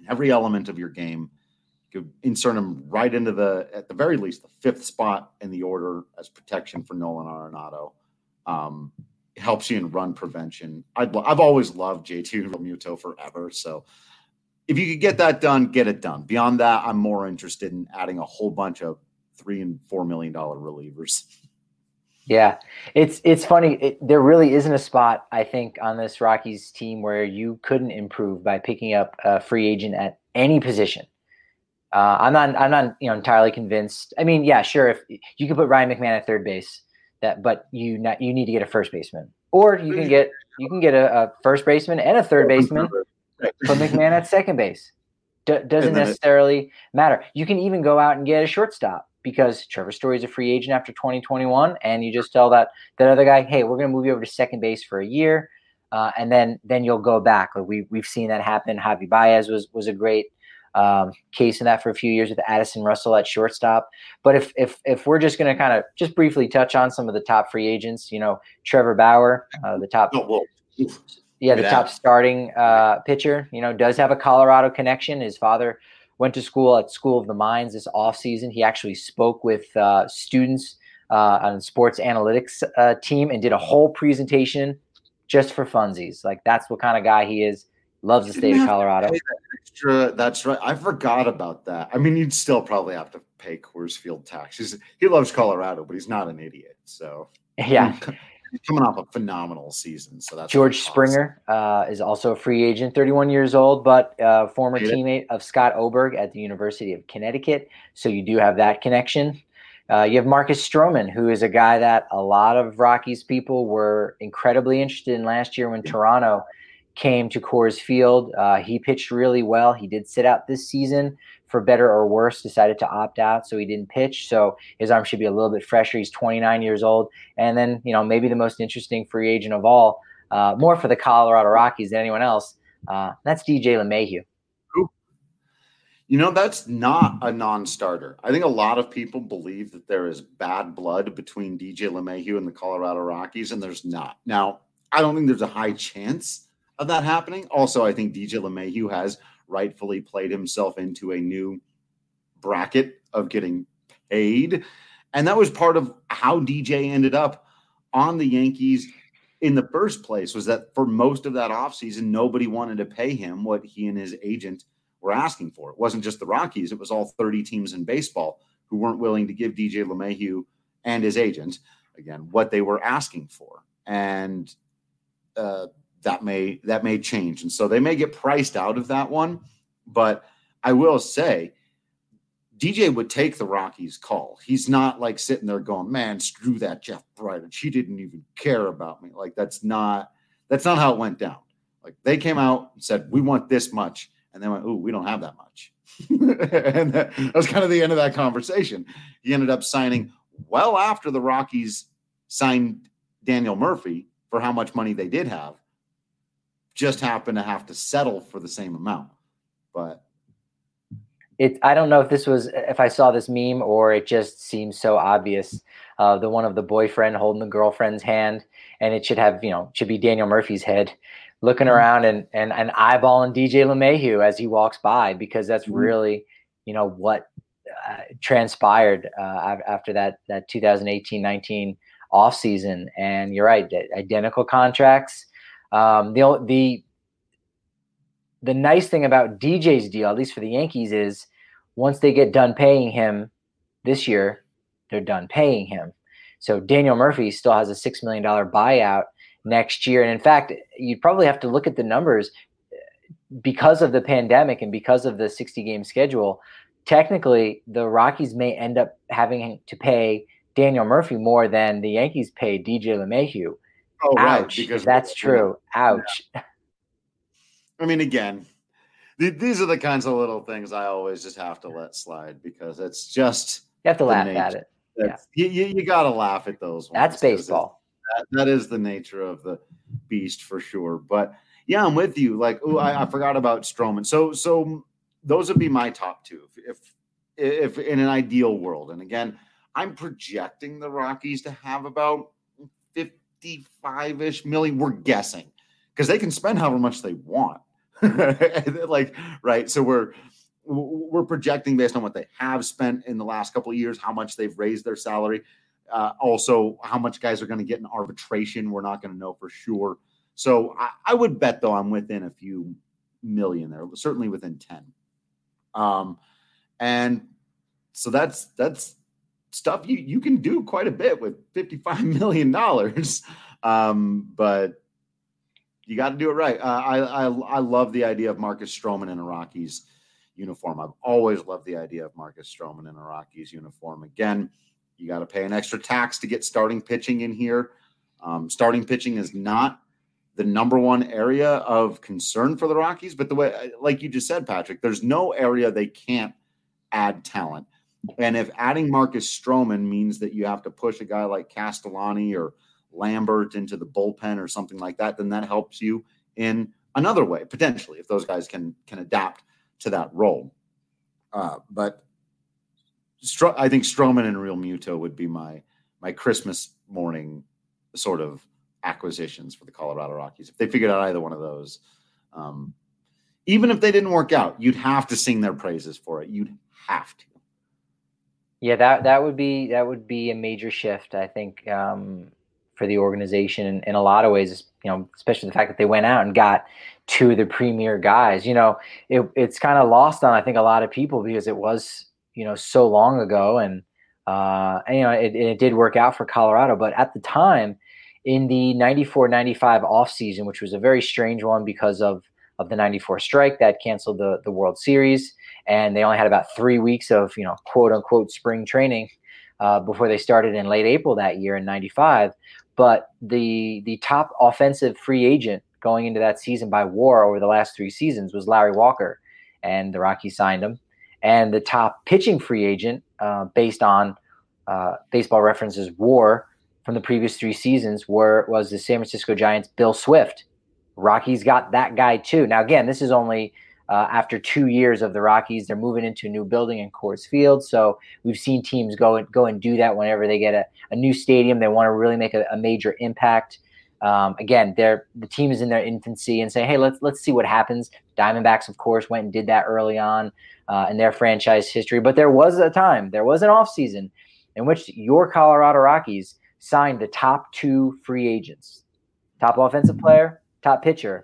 E: every element of your game. You could insert him right into the, at the very least, the fifth spot in the order as protection for Nolan Arenado. Um, it helps you in run prevention. I'd, I've always loved J T Realmuto forever. So if you could get that done, get it done. Beyond that, I'm more interested in adding a whole bunch of three and four million dollar relievers.
F: Yeah, it's it's funny. It, there really isn't a spot, I think, on this Rockies team where you couldn't improve by picking up a free agent at any position. Uh, I'm not I'm not you know entirely convinced. I mean, yeah, sure, if you could put Ryan McMahon at third base, that but you not you need to get a first baseman, or you can get you can get a, a first baseman and a third baseman, put McMahon at second base. D- doesn't necessarily matter. You can even go out and get a shortstop, because Trevor Story is a free agent after twenty twenty-one, and you just tell that that other guy, hey, we're going to move you over to second base for a year, uh, and then then you'll go back. Like we we've seen that happen. Javi Baez was was a great um, case in that for a few years with Addison Russell at shortstop. But if if if we're just going to kind of just briefly touch on some of the top free agents, you know, Trevor Bauer, uh, the top.
E: Oh, well.
F: Yeah, the top starting uh, pitcher, you know, does have a Colorado connection. His father went to school at School of the Mines this offseason. He actually spoke with uh, students uh, on the sports analytics uh, team and did a whole presentation just for funsies. Like, that's what kind of guy he is. Loves the state of Colorado.
E: That extra, that's right. I forgot about that. I mean, you'd still probably have to pay Coors Field taxes. He loves Colorado, but he's not an idiot. So
F: yeah.
E: He's coming off a phenomenal season. So that's
F: George Springer uh, is also a free agent, thirty-one years old, but uh, former teammate of Scott Oberg at the University of Connecticut. So you do have that connection. Uh, you have Marcus Stroman, who is a guy that a lot of Rockies people were incredibly interested in last year when Toronto came to Coors Field. Uh, he pitched really well. He did sit out this season for better or worse, decided to opt out, so he didn't pitch. So his arm should be a little bit fresher. He's twenty-nine years old. And then, you know, maybe the most interesting free agent of all, uh, more for the Colorado Rockies than anyone else, uh, that's D J LeMahieu.
E: You know, that's not a non-starter. I think a lot of people believe that there is bad blood between D J LeMahieu and the Colorado Rockies, and there's not. Now, I don't think there's a high chance of that happening. Also, I think D J LeMahieu has rightfully played himself into a new bracket of getting paid. And that was part of how D J ended up on the Yankees in the first place, was that for most of that offseason, nobody wanted to pay him what he and his agent were asking for. It wasn't just the Rockies. It was all thirty teams in baseball who weren't willing to give D J LeMahieu and his agent, again, what they were asking for. And uh, that may that may change. And so they may get priced out of that one. But I will say, D J would take the Rockies' call. He's not like sitting there going, man, screw that Jeff Bridich. He didn't even care about me. Like, that's not that's not how it went down. Like, they came out and said, we want this much. And they went, ooh, we don't have that much. And that, that was kind of the end of that conversation. He ended up signing well after the Rockies signed Daniel Murphy for how much money they did have. Just happened to have to settle for the same amount. But
F: it, I don't know if this was, if I saw this meme or it just seems so obvious. Uh, the one of the boyfriend holding the girlfriend's hand, and it should have, you know, should be Daniel Murphy's head looking mm-hmm. around and, and, and eyeballing D J LeMahieu as he walks by, because that's mm-hmm. really, you know, what uh, transpired uh, after that, that two thousand eighteen nineteen off season. And you're right, identical contracts. Um, the, the, the nice thing about D J's deal, at least for the Yankees, is once they get done paying him this year, they're done paying him. So Daniel Murphy still has a six million dollars buyout next year. And in fact, you'd probably have to look at the numbers because of the pandemic and because of the sixty game schedule. Technically, the Rockies may end up having to pay Daniel Murphy more than the Yankees paid D J LeMahieu.
E: Oh,
F: Ouch.
E: right, because
F: that's true. Ouch.
E: Yeah. I mean, again, th- these are the kinds of little things I always just have to let slide, because it's just
F: you have to laugh nature. At it.
E: Yeah. You, you, you got to laugh at those ones.
F: That's baseball.
E: That, that is the nature of the beast for sure. But yeah, I'm with you. Like, oh, I, I forgot about Stroman. So, so those would be my top two if, if, if in an ideal world. And again, I'm projecting the Rockies to have about fifty-five-ish million. We're guessing, because they can spend however much they want. like, right. So we're, we're projecting based on what they have spent in the last couple of years, how much they've raised their salary. Uh, also, how much guys are going to get in arbitration, we're not going to know for sure. So I, I would bet, though, I'm within a few million there, certainly within ten. Um, and so that's that's stuff you you can do quite a bit with fifty-five million dollars. Um, but you got to do it right. Uh, I, I I love the idea of Marcus Stroman in a Rockies uniform. I've always loved the idea of Marcus Stroman in a Rockies uniform. Again, you got to pay an extra tax to get starting pitching in here. Um, starting pitching is not the number one area of concern for the Rockies, but the way, like you just said, Patrick, there's no area they can't add talent. And if adding Marcus Stroman means that you have to push a guy like Castellani or Lambert into the bullpen or something like that, then that helps you in another way, potentially, if those guys can can adapt to that role. Uh, but Stro- I think Stroman and Real Muto would be my my Christmas morning sort of acquisitions for the Colorado Rockies. If they figured out either one of those, um, even if they didn't work out, you'd have to sing their praises for it. You'd have to.
F: Yeah, that that would be that would be a major shift, I think, um, for the organization in, in a lot of ways. You know, especially the fact that they went out and got two of the premier guys. You know, it, it's kind of lost on, I think, a lot of people because it was, you know, so long ago, and, uh, and you know, it, it did work out for Colorado. But at the time, in the ninety-four ninety-five offseason, which was a very strange one because of, of the ninety-four strike that canceled the, the World Series, and they only had about three weeks of, you know, quote unquote spring training uh, before they started in late April that year in ninety-five. But the the top offensive free agent going into that season by WAR over the last three seasons was Larry Walker, and the Rockies signed him. And the top pitching free agent, uh, based on uh, Baseball Reference's WAR from the previous three seasons, were was the San Francisco Giants' Bill Swift. Rockies got that guy too. Now, again, this is only uh, after two years of the Rockies. They're moving into a new building in Coors Field, so we've seen teams go and go and do that whenever they get a, a new stadium. They want to really make a, a major impact. Um, again, they're the team is in their infancy and say, hey, let's let's see what happens. Diamondbacks, of course, went and did that early on uh, in their franchise history. But there was a time, there was an offseason in which your Colorado Rockies signed the top two free agents, top offensive player, top pitcher.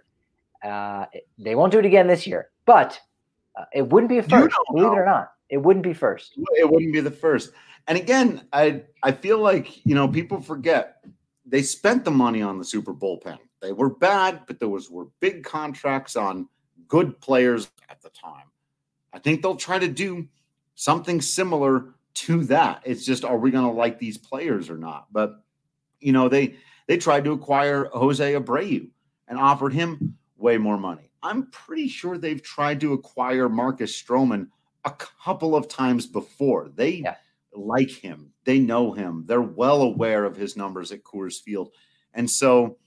F: Uh, they won't do it again this year, but uh, it wouldn't be a first, believe it or not. It wouldn't be first.
E: It wouldn't be the first. And again, I I feel like, you know, people forget they spent the money on the super bullpen. They were bad, but there was were big contracts on good players at the time. I think they'll try to do something similar to that. It's just, are we going to like these players or not? But, you know, they they tried to acquire Jose Abreu and offered him way more money. I'm pretty sure they've tried to acquire Marcus Stroman a couple of times before. They yeah. like him. They know him. They're well aware of his numbers at Coors Field. And so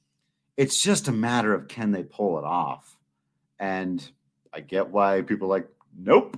E: it's just a matter of, can they pull it off? And I get why people are like, nope.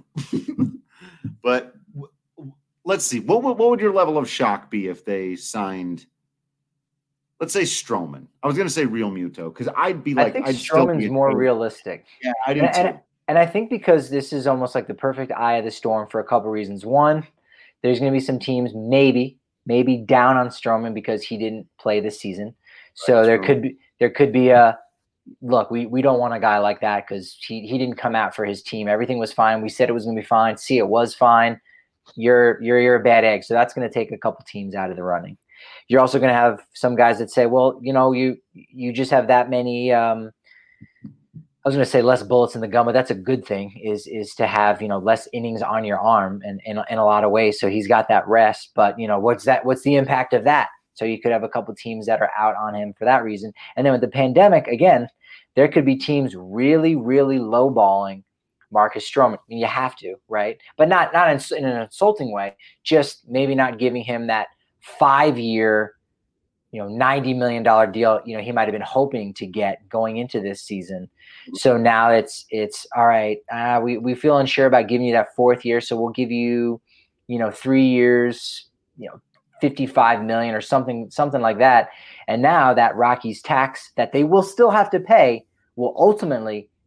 E: But w- let's see. What, what, what would your level of shock be if they signed, let's say, Stroman? I was going to say Real Muto, because I'd be like,
F: I think
E: I'd
F: Stroman's
E: be
F: more realistic.
E: Yeah, I do
F: and,
E: too.
F: And, and I think because this is almost like the perfect eye of the storm for a couple reasons. One, there's going to be some teams maybe, maybe down on Stroman because he didn't play this season. So there could be there could be a look. We we don't want a guy like that because he he didn't come out for his team. Everything was fine. We said it was going to be fine. See, it was fine. You're you're you're a bad egg. So that's going to take a couple teams out of the running. You're also going to have some guys that say, well, you know, you you just have that many. Um, I was going to say less bullets in the gun, but that's a good thing. Is is to have, you know, less innings on your arm, and in in a lot of ways. So he's got that rest. But you know, what's that? What's the impact of that? So you could have a couple teams that are out on him for that reason. And then with the pandemic, again, there could be teams really, really lowballing Marcus Stroman. I mean, you have to, right? But not not in, in an insulting way. Just maybe not giving him that five-year, you know, ninety million dollars deal, you know, he might have been hoping to get going into this season. So now it's, it's all right. Uh, we, we feel unsure about giving you that fourth year. So we'll give you, you know, three years, you know, fifty-five million or something, something like that. And now that Rockies tax that they will still have to pay will ultimately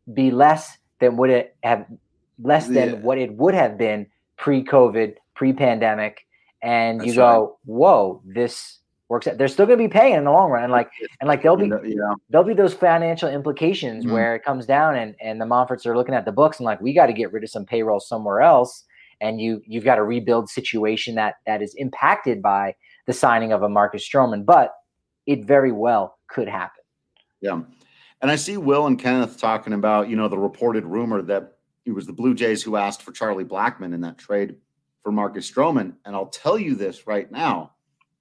F: be less than would it have less than
E: Yeah.
F: what it would have been pre-COVID, pre-pandemic, and
E: That's
F: you go, whoa, this works out. They're still going to be paying in the long run, and like and like there'll be
E: Yeah.
F: there'll be those financial implications
E: Mhm.
F: where it comes down, and and the Monforts are looking at the books and like, we got to get rid of some payroll somewhere else, and you you've got a rebuild situation that that is impacted by the signing of a Marcus Stroman, but it very well could happen.
E: Yeah. And I see Will and Kenneth talking about, you know, the reported rumor that it was the Blue Jays who asked for Charlie Blackmon in that trade for Marcus Stroman. And I'll tell you this right now.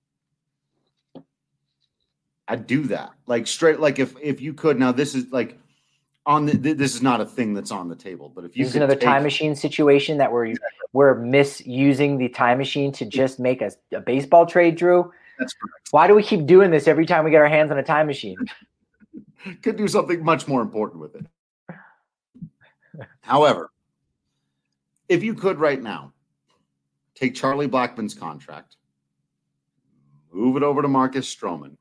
E: I'd do that. Like straight, like if if you could, now this is like on the, this is not a thing that's on the table, but if you
F: This is
E: could
F: another
E: take-
F: time machine situation that we're we're misusing the time machine to just make a, a baseball trade, Drew.
E: That's correct.
F: Why do we keep doing this every time we get our hands on a time machine?
E: Could do something much more important with it. However, if you could right now take Charlie Blackmon's contract, move it over to Marcus Stroman,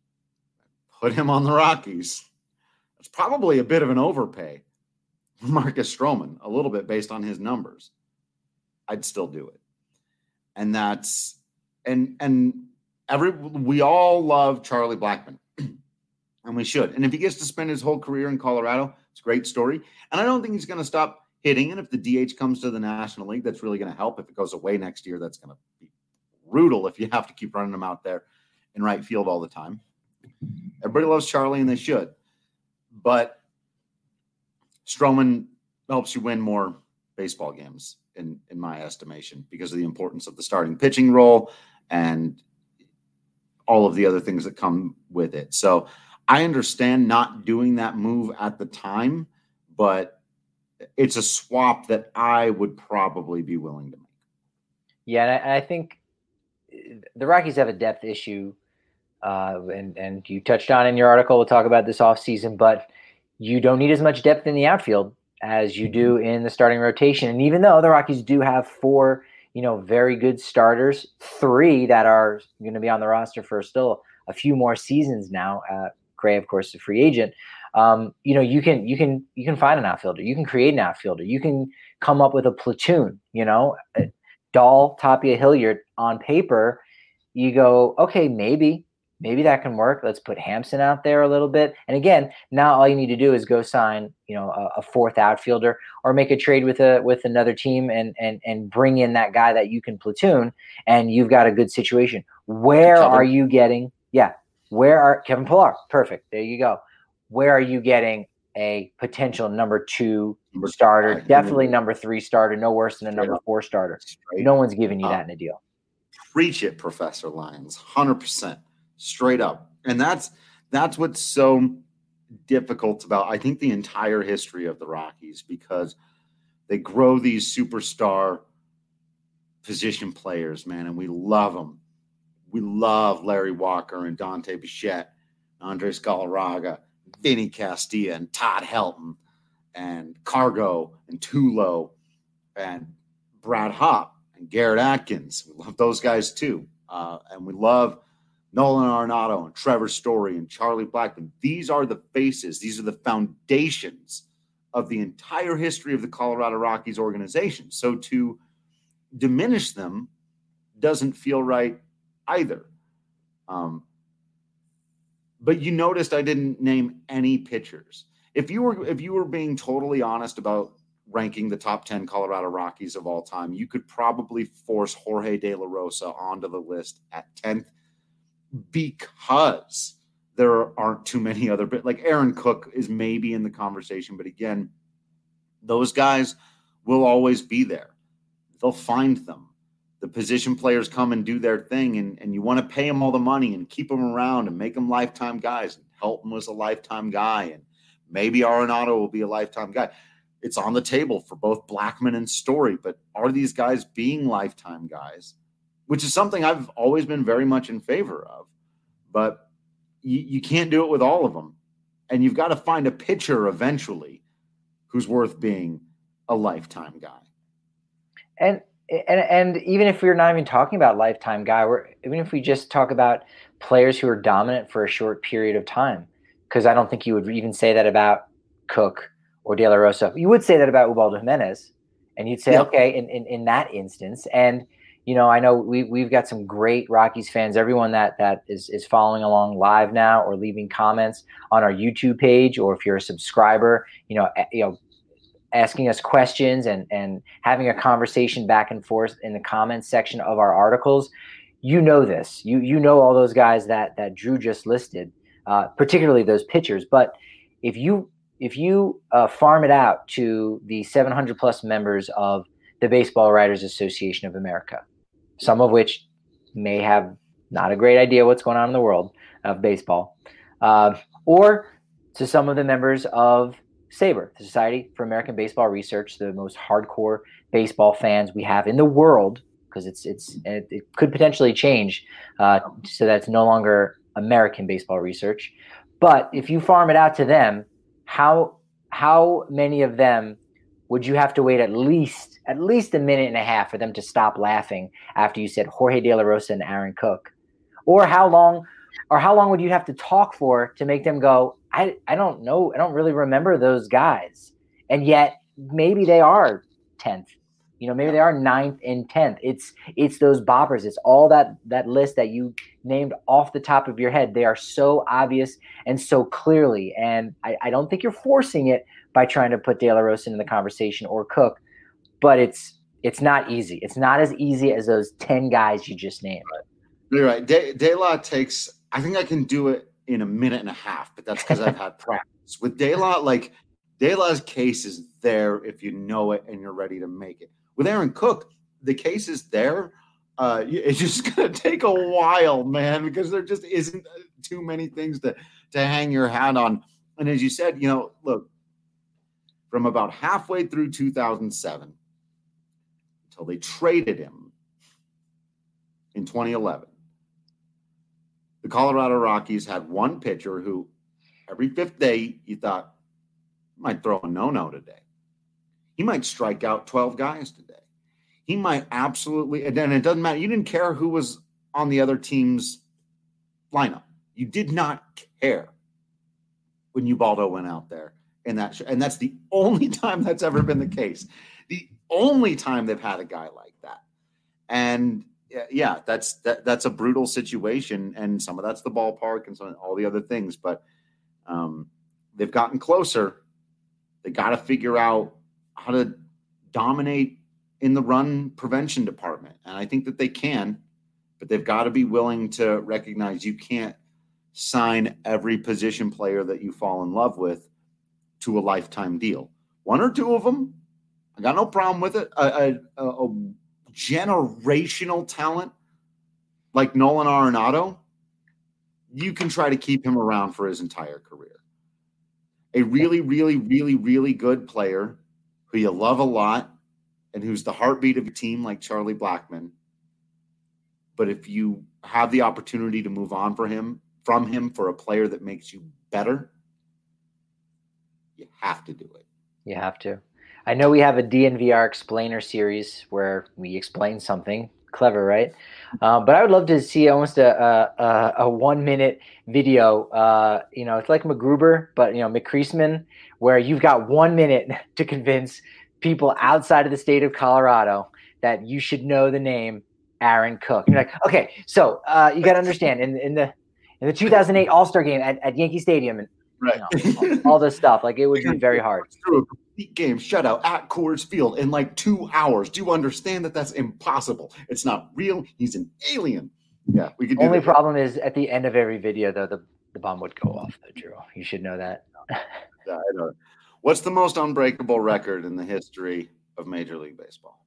E: put him on the Rockies, that's probably a bit of an overpay for Marcus Stroman, a little bit based on his numbers. I'd still do it. And that's and and every we all love Charlie Blackmon. And we should. And if he gets to spend his whole career in Colorado, it's a great story. And I don't think he's going to stop hitting. And if the D H comes to the National League, that's really going to help. If it goes away next year, that's going to be brutal if you have to keep running him out there in right field all the time. Everybody loves Charlie, and they should. But Stroman helps you win more baseball games, in, in my estimation, because of the importance of the starting pitching role and all of the other things that come with it. So I understand not doing that move at the time, but it's a swap that I would probably be willing to make.
F: Yeah, and I, I think the Rockies have a depth issue, uh, and, and you touched on in your article. We'll talk about this offseason, but you don't need as much depth in the outfield as you do in the starting rotation. And even though the Rockies do have four, you know, very good starters, three that are going to be on the roster for still a few more seasons now. Uh, Gray, of course, the free agent. Um, you know, you can you can you can find an outfielder. You can create an outfielder. You can come up with a platoon. You know, Dahl, Tapia, Hilliard on paper. You go, okay, maybe maybe that can work. Let's put Hampson out there a little bit. And again, now all you need to do is go sign, you know, a, a fourth outfielder or make a trade with a with another team and and and bring in that guy that you can platoon, and you've got a good situation. Where
E: Kevin.
F: are you getting? Yeah. Where are Kevin Pillar? Perfect. There you go. Where are you getting a potential number two
E: Number
F: starter?
E: five.
F: Definitely number three starter. No worse than a number four starter.
E: Straight
F: No one's giving you
E: up.
F: that in a deal.
E: Preach it, Professor Lyons. one hundred percent. Straight up. And that's that's what's so difficult about, I think, the entire history of the Rockies, because they grow these superstar position players, man, and we love them. We love Larry Walker and Dante Bichette, Andres Galarraga, Vinny Castilla, and Todd Helton, and Cargo, and Tulo, and Brad Hopp, and Garrett Atkins. We love those guys too. Uh, and we love Nolan Arenado and Trevor Story and Charlie Blackmon. These are the faces. These are the foundations of the entire history of the Colorado Rockies organization. So to diminish them doesn't feel right either. Um, but you noticed I didn't name any pitchers. If you were if you were being totally honest about ranking the top ten Colorado Rockies of all time, you could probably force Jorge De La Rosa onto the list at tenth, because there aren't too many other, but like Aaron Cook is maybe in the conversation, but again, those guys will always be there. They'll find them. The position players come and do their thing, and, and you want to pay them all the money and keep them around and make them lifetime guys. Helton was a lifetime guy, and maybe Arenado will be a lifetime guy. It's on the table for both Blackmon and Story, but are these guys being lifetime guys? Which is something I've always been very much in favor of. But you, you can't do it with all of them. And you've got to find a pitcher eventually who's worth being a lifetime guy.
F: And and and even if we're not even talking about lifetime guy, we're even if we just talk about players who are dominant for a short period of time, because I don't think you would even say that about Cook or De La Rosa. You would say that about Ubaldo Jimenez, and you'd say,
E: yeah.
F: okay, in, in, in that instance. And, you know, I know we, we've got some great Rockies fans, everyone that, that is, is following along live now or leaving comments on our YouTube page, or if you're a subscriber, you know, you know, asking us questions and, and having a conversation back and forth in the comments section of our articles. You know this. You you know all those guys that that Drew just listed, uh, particularly those pitchers. But if you if you uh, farm it out to the seven hundred plus members of the Baseball Writers Association of America, some of which may have not a great idea what's going on in the world of baseball, uh, or to some of the members of SABR, the Society for American Baseball Research, the most hardcore baseball fans we have in the world, because it's it's it, it could potentially change uh, so that it's no longer American baseball research. But if you farm it out to them, how how many of them would you have to wait at least at least a minute and a half for them to stop laughing after you said Jorge De La Rosa and Aaron Cook? Or how long or how long would you have to talk for to make them go, I, I don't know, I don't really remember those guys. And yet maybe they are tenth. You know, maybe they are ninth and tenth. It's it's those boppers. It's all that that list that you named off the top of your head. They are so obvious and so clearly. And I, I don't think you're forcing it by trying to put De La Rosa in the conversation or Cook, but it's it's not easy. It's not as easy as those ten guys you just named.
E: You're right. De, De La takes, I think I can do it in a minute and a half, but that's because I've had practice. With De La, like, De La's case is there if you know it and you're ready to make it. With Aaron Cook, the case is there. Uh, it's just going to take a while, man, because there just isn't too many things to, to hang your hat on. And as you said, you know, look, from about halfway through two thousand seven until they traded him in twenty eleven, the Colorado Rockies had one pitcher who every fifth day you thought might throw a no-no today. He might strike out twelve guys today. He might absolutely, and then it doesn't matter. You didn't care who was on the other team's lineup. You did not care when Ubaldo went out there. And that, and that's the only time that's ever been the case. The only time they've had a guy like that. And yeah, that's that, that's a brutal situation. And some of that's the ballpark and some all the other things. But um, they've gotten closer. They got to figure out how to dominate in the run prevention department. And I think that they can, but they've got to be willing to recognize you can't sign every position player that you fall in love with to a lifetime deal. One or two of them, I got no problem with it. A, a, a generational talent like Nolan Arenado, you can try to keep him around for his entire career. A really, really, really, really good player who you love a lot and who's the heartbeat of your team like Charlie Blackmon. But if you have the opportunity to move on for him, from him for a player that makes you better, you have to do it. You
F: have to. I know we have a D N V R explainer series where we explain something clever, right? Uh, but I would love to see almost a a, a one minute video. Uh, you know, it's like MacGruber, but you know, McCreasman, where you've got one minute to convince people outside of the state of Colorado that you should know the name Aaron Cook. You're like, okay, so uh, you got to understand in in the in the two thousand eight All-Star game at, at Yankee Stadium and.
E: Right.
F: You know, all, all this stuff. Like, it would be very hard.
E: Through a complete game shutout at Coors Field in like two hours. Do you understand that that's impossible? It's not real. He's an alien. Yeah, we could do
F: Only
E: that.
F: problem is at the end of every video, though, the, the bomb would go off, though, Drew. You should know that.
E: Yeah, I know. What's the most unbreakable record in the history of Major League Baseball?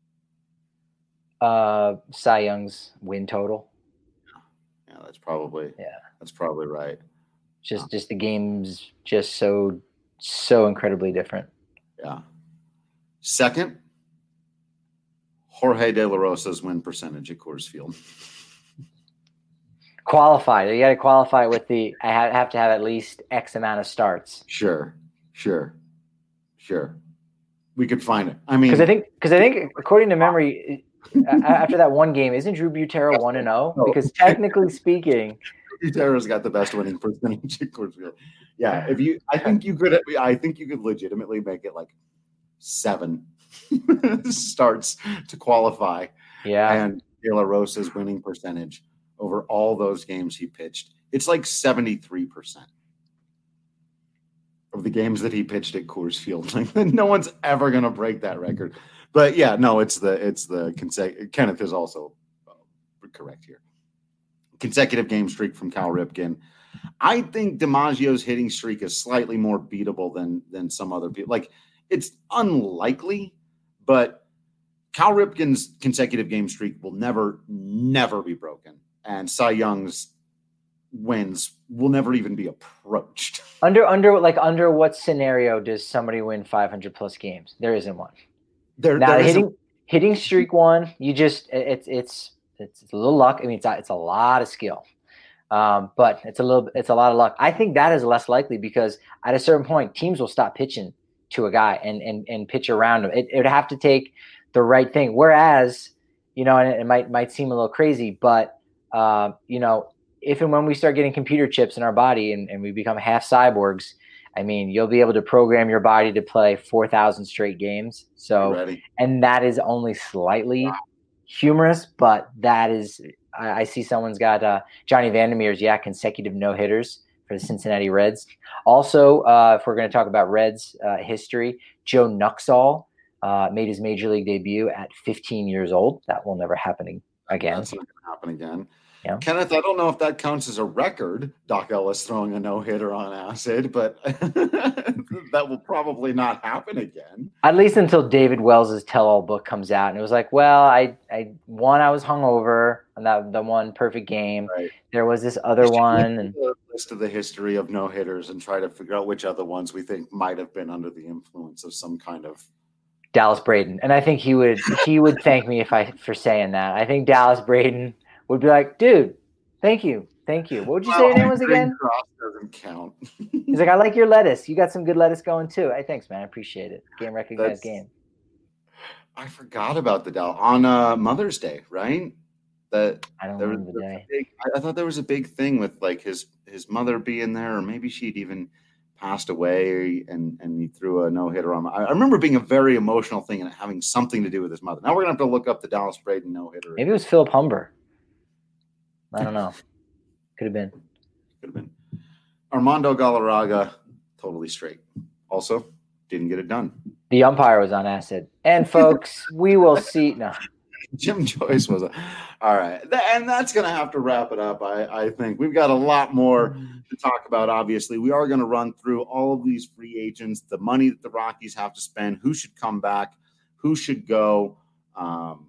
F: Uh, Cy Young's win total.
E: Yeah, that's probably yeah, that's probably right.
F: Just, just the game's just so, so incredibly different.
E: Yeah. Second, Jorge De La Rosa's win percentage at Coors Field.
F: Qualify. You got to qualify with the. I have to have at least X amount of starts.
E: Sure, sure, sure. We could find it. I mean,
F: because I think, because I think, according to memory, after that one game, isn't Drew Butero one and zero? Because technically speaking.
E: Gutierrez got the best winning percentage at Coors Field. Yeah, if you, I think you could, I think you could legitimately make it like seven starts to qualify.
F: Yeah,
E: and De La Rosa's winning percentage over all those games he pitched, it's like seventy-three percent of the games that he pitched at Coors Field. Like, no one's ever going to break that record. But yeah, no, it's the it's the consecutive. Kenneth is also uh, correct here. Consecutive game streak from Cal Ripken. I think DiMaggio's hitting streak is slightly more beatable than than some other people. Like, it's unlikely, but Cal Ripken's consecutive game streak will never, never be broken. And Cy Young's wins will never even be approached.
F: Under under like under what scenario does somebody win five hundred plus games? There isn't one.
E: There,
F: now
E: there
F: hitting
E: isn't.
F: hitting streak one, you just it's it's it's, it's a little luck. I mean, it's a, it's a lot of skill, um, but it's a little it's a lot of luck. I think that is less likely because at a certain point, teams will stop pitching to a guy and and and pitch around him. It, it would have to take the right thing. Whereas, you know, and it, it might might seem a little crazy, but uh, you know, if and when we start getting computer chips in our body and, and we become half cyborgs, I mean, you'll be able to program your body to play four thousand straight games. So, and that is only slightly wow. humorous, but that is, I, I see someone's got uh, Johnny Vandermeer's, yeah, consecutive no-hitters for the Cincinnati Reds. Also, uh, if we're going to talk about Reds uh, history, Joe Nuxhall uh, made his major league debut at fifteen years old. That will never happen again.
E: That's not going to happen again.
F: Yeah.
E: Kenneth, I don't know if that counts as a record, Doc Ellis throwing a no-hitter on acid, but that will probably not happen again.
F: At least until David Wells' tell-all book comes out. And it was like, well, I, I one, I was hungover on that the one perfect game. Right. There was this other one. And
E: a list of the history of no-hitters and try to figure out which other ones we think might have been under the influence of some kind of
F: Dallas Braden. And I think he would he would thank me if I for saying that. I think Dallas Braden would be like, dude, thank you. Thank you. What would you well, say your name was again?
E: Cross doesn't count.
F: He's like, I like your lettuce. You got some good lettuce going too. Hey, thanks, man. I appreciate it. Game recognized That's, game.
E: I forgot about the Dallas on uh, Mother's Day, right? That
F: I don't
E: there
F: remember
E: was
F: the day.
E: Big, I, I thought there was a big thing with like his his mother being there, or maybe she'd even passed away and, and he threw a no-hitter on. I, I remember being a very emotional thing and having something to do with his mother. Now we're going to have to look up the Dallas Braden no-hitter.
F: Maybe it was Philip Humber. I don't know. Could have been.
E: Could have been. Armando Galarraga, totally straight. Also, didn't get it done.
F: The umpire was on acid. And, folks, we will see. No.
E: Jim Joyce was a. All right. And that's going to have to wrap it up, I, I think. We've got a lot more to talk about, obviously. We are going to run through all of these free agents, the money that the Rockies have to spend, who should come back, who should go. Um,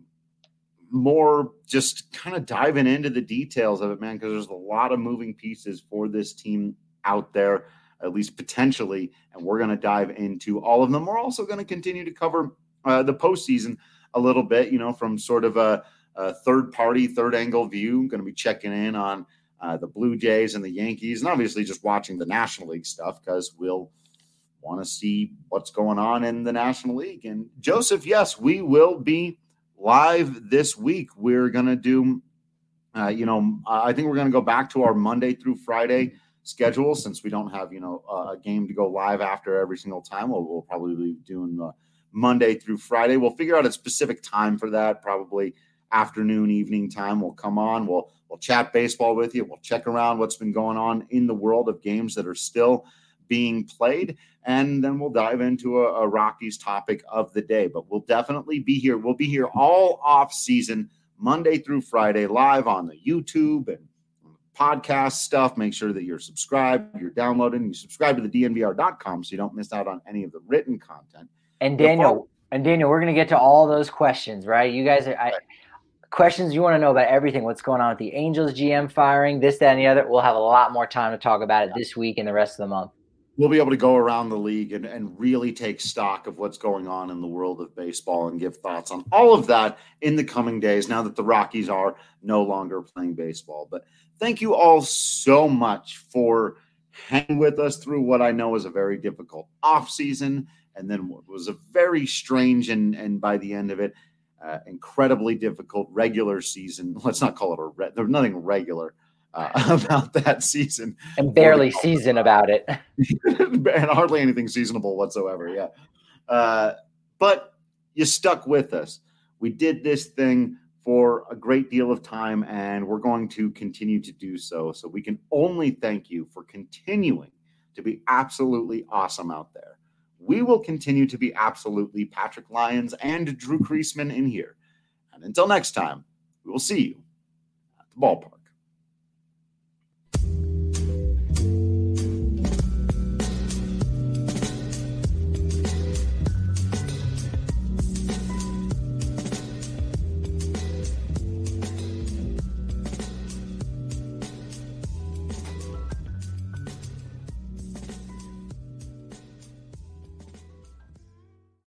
E: more just kind of diving into the details of it, man, because there's a lot of moving pieces for this team out there, at least potentially, and we're going to dive into all of them. We're also going to continue to cover uh, the postseason a little bit, you know, from sort of a, a third-party, third-angle view. I'm going to be checking in on uh, the Blue Jays and the Yankees, and obviously just watching the National League stuff because we'll want to see what's going on in the National League. And, Joseph, yes, we will be live this week. We're going to do, uh, you know, I think we're going to go back to our Monday through Friday schedule since we don't have, you know, a game to go live after every single time. We'll, we'll probably be doing uh, Monday through Friday. We'll figure out a specific time for that, probably afternoon, evening time. We'll come on. We'll, we'll chat baseball with you. We'll check around what's been going on in the world of games that are still being played, and then we'll dive into a, a Rockies topic of the day. But we'll definitely be here. We'll be here all off season, Monday through Friday, live on the YouTube and podcast stuff. Make sure that you're subscribed, you're downloading, you subscribe to the D N V R dot com so you don't miss out on any of the written content.
F: And Daniel, Before- and Daniel, we're going to get to all those questions, right? You guys are I, questions you want to know about everything. What's going on with the Angels G M firing, this, that, and the other. We'll have a lot more time to talk about it this week and the rest of the month.
E: We'll be able to go around the league and, and really take stock of what's going on in the world of baseball and give thoughts on all of that in the coming days now that the Rockies are no longer playing baseball. But thank you all so much for hanging with us through what I know is a very difficult offseason and then what was a very strange and, and by the end of it, uh, incredibly difficult regular season. Let's not call it a re- – there's nothing regular uh, about that season.
F: And barely season about it.
E: And hardly anything seasonable whatsoever, yeah. Uh, but you stuck with us. We did this thing for a great deal of time, and we're going to continue to do so. So we can only thank you for continuing to be absolutely awesome out there. We will continue to be absolutely Patrick Lyons and Drew Creasman in here. And until next time, we will see you at the ballpark.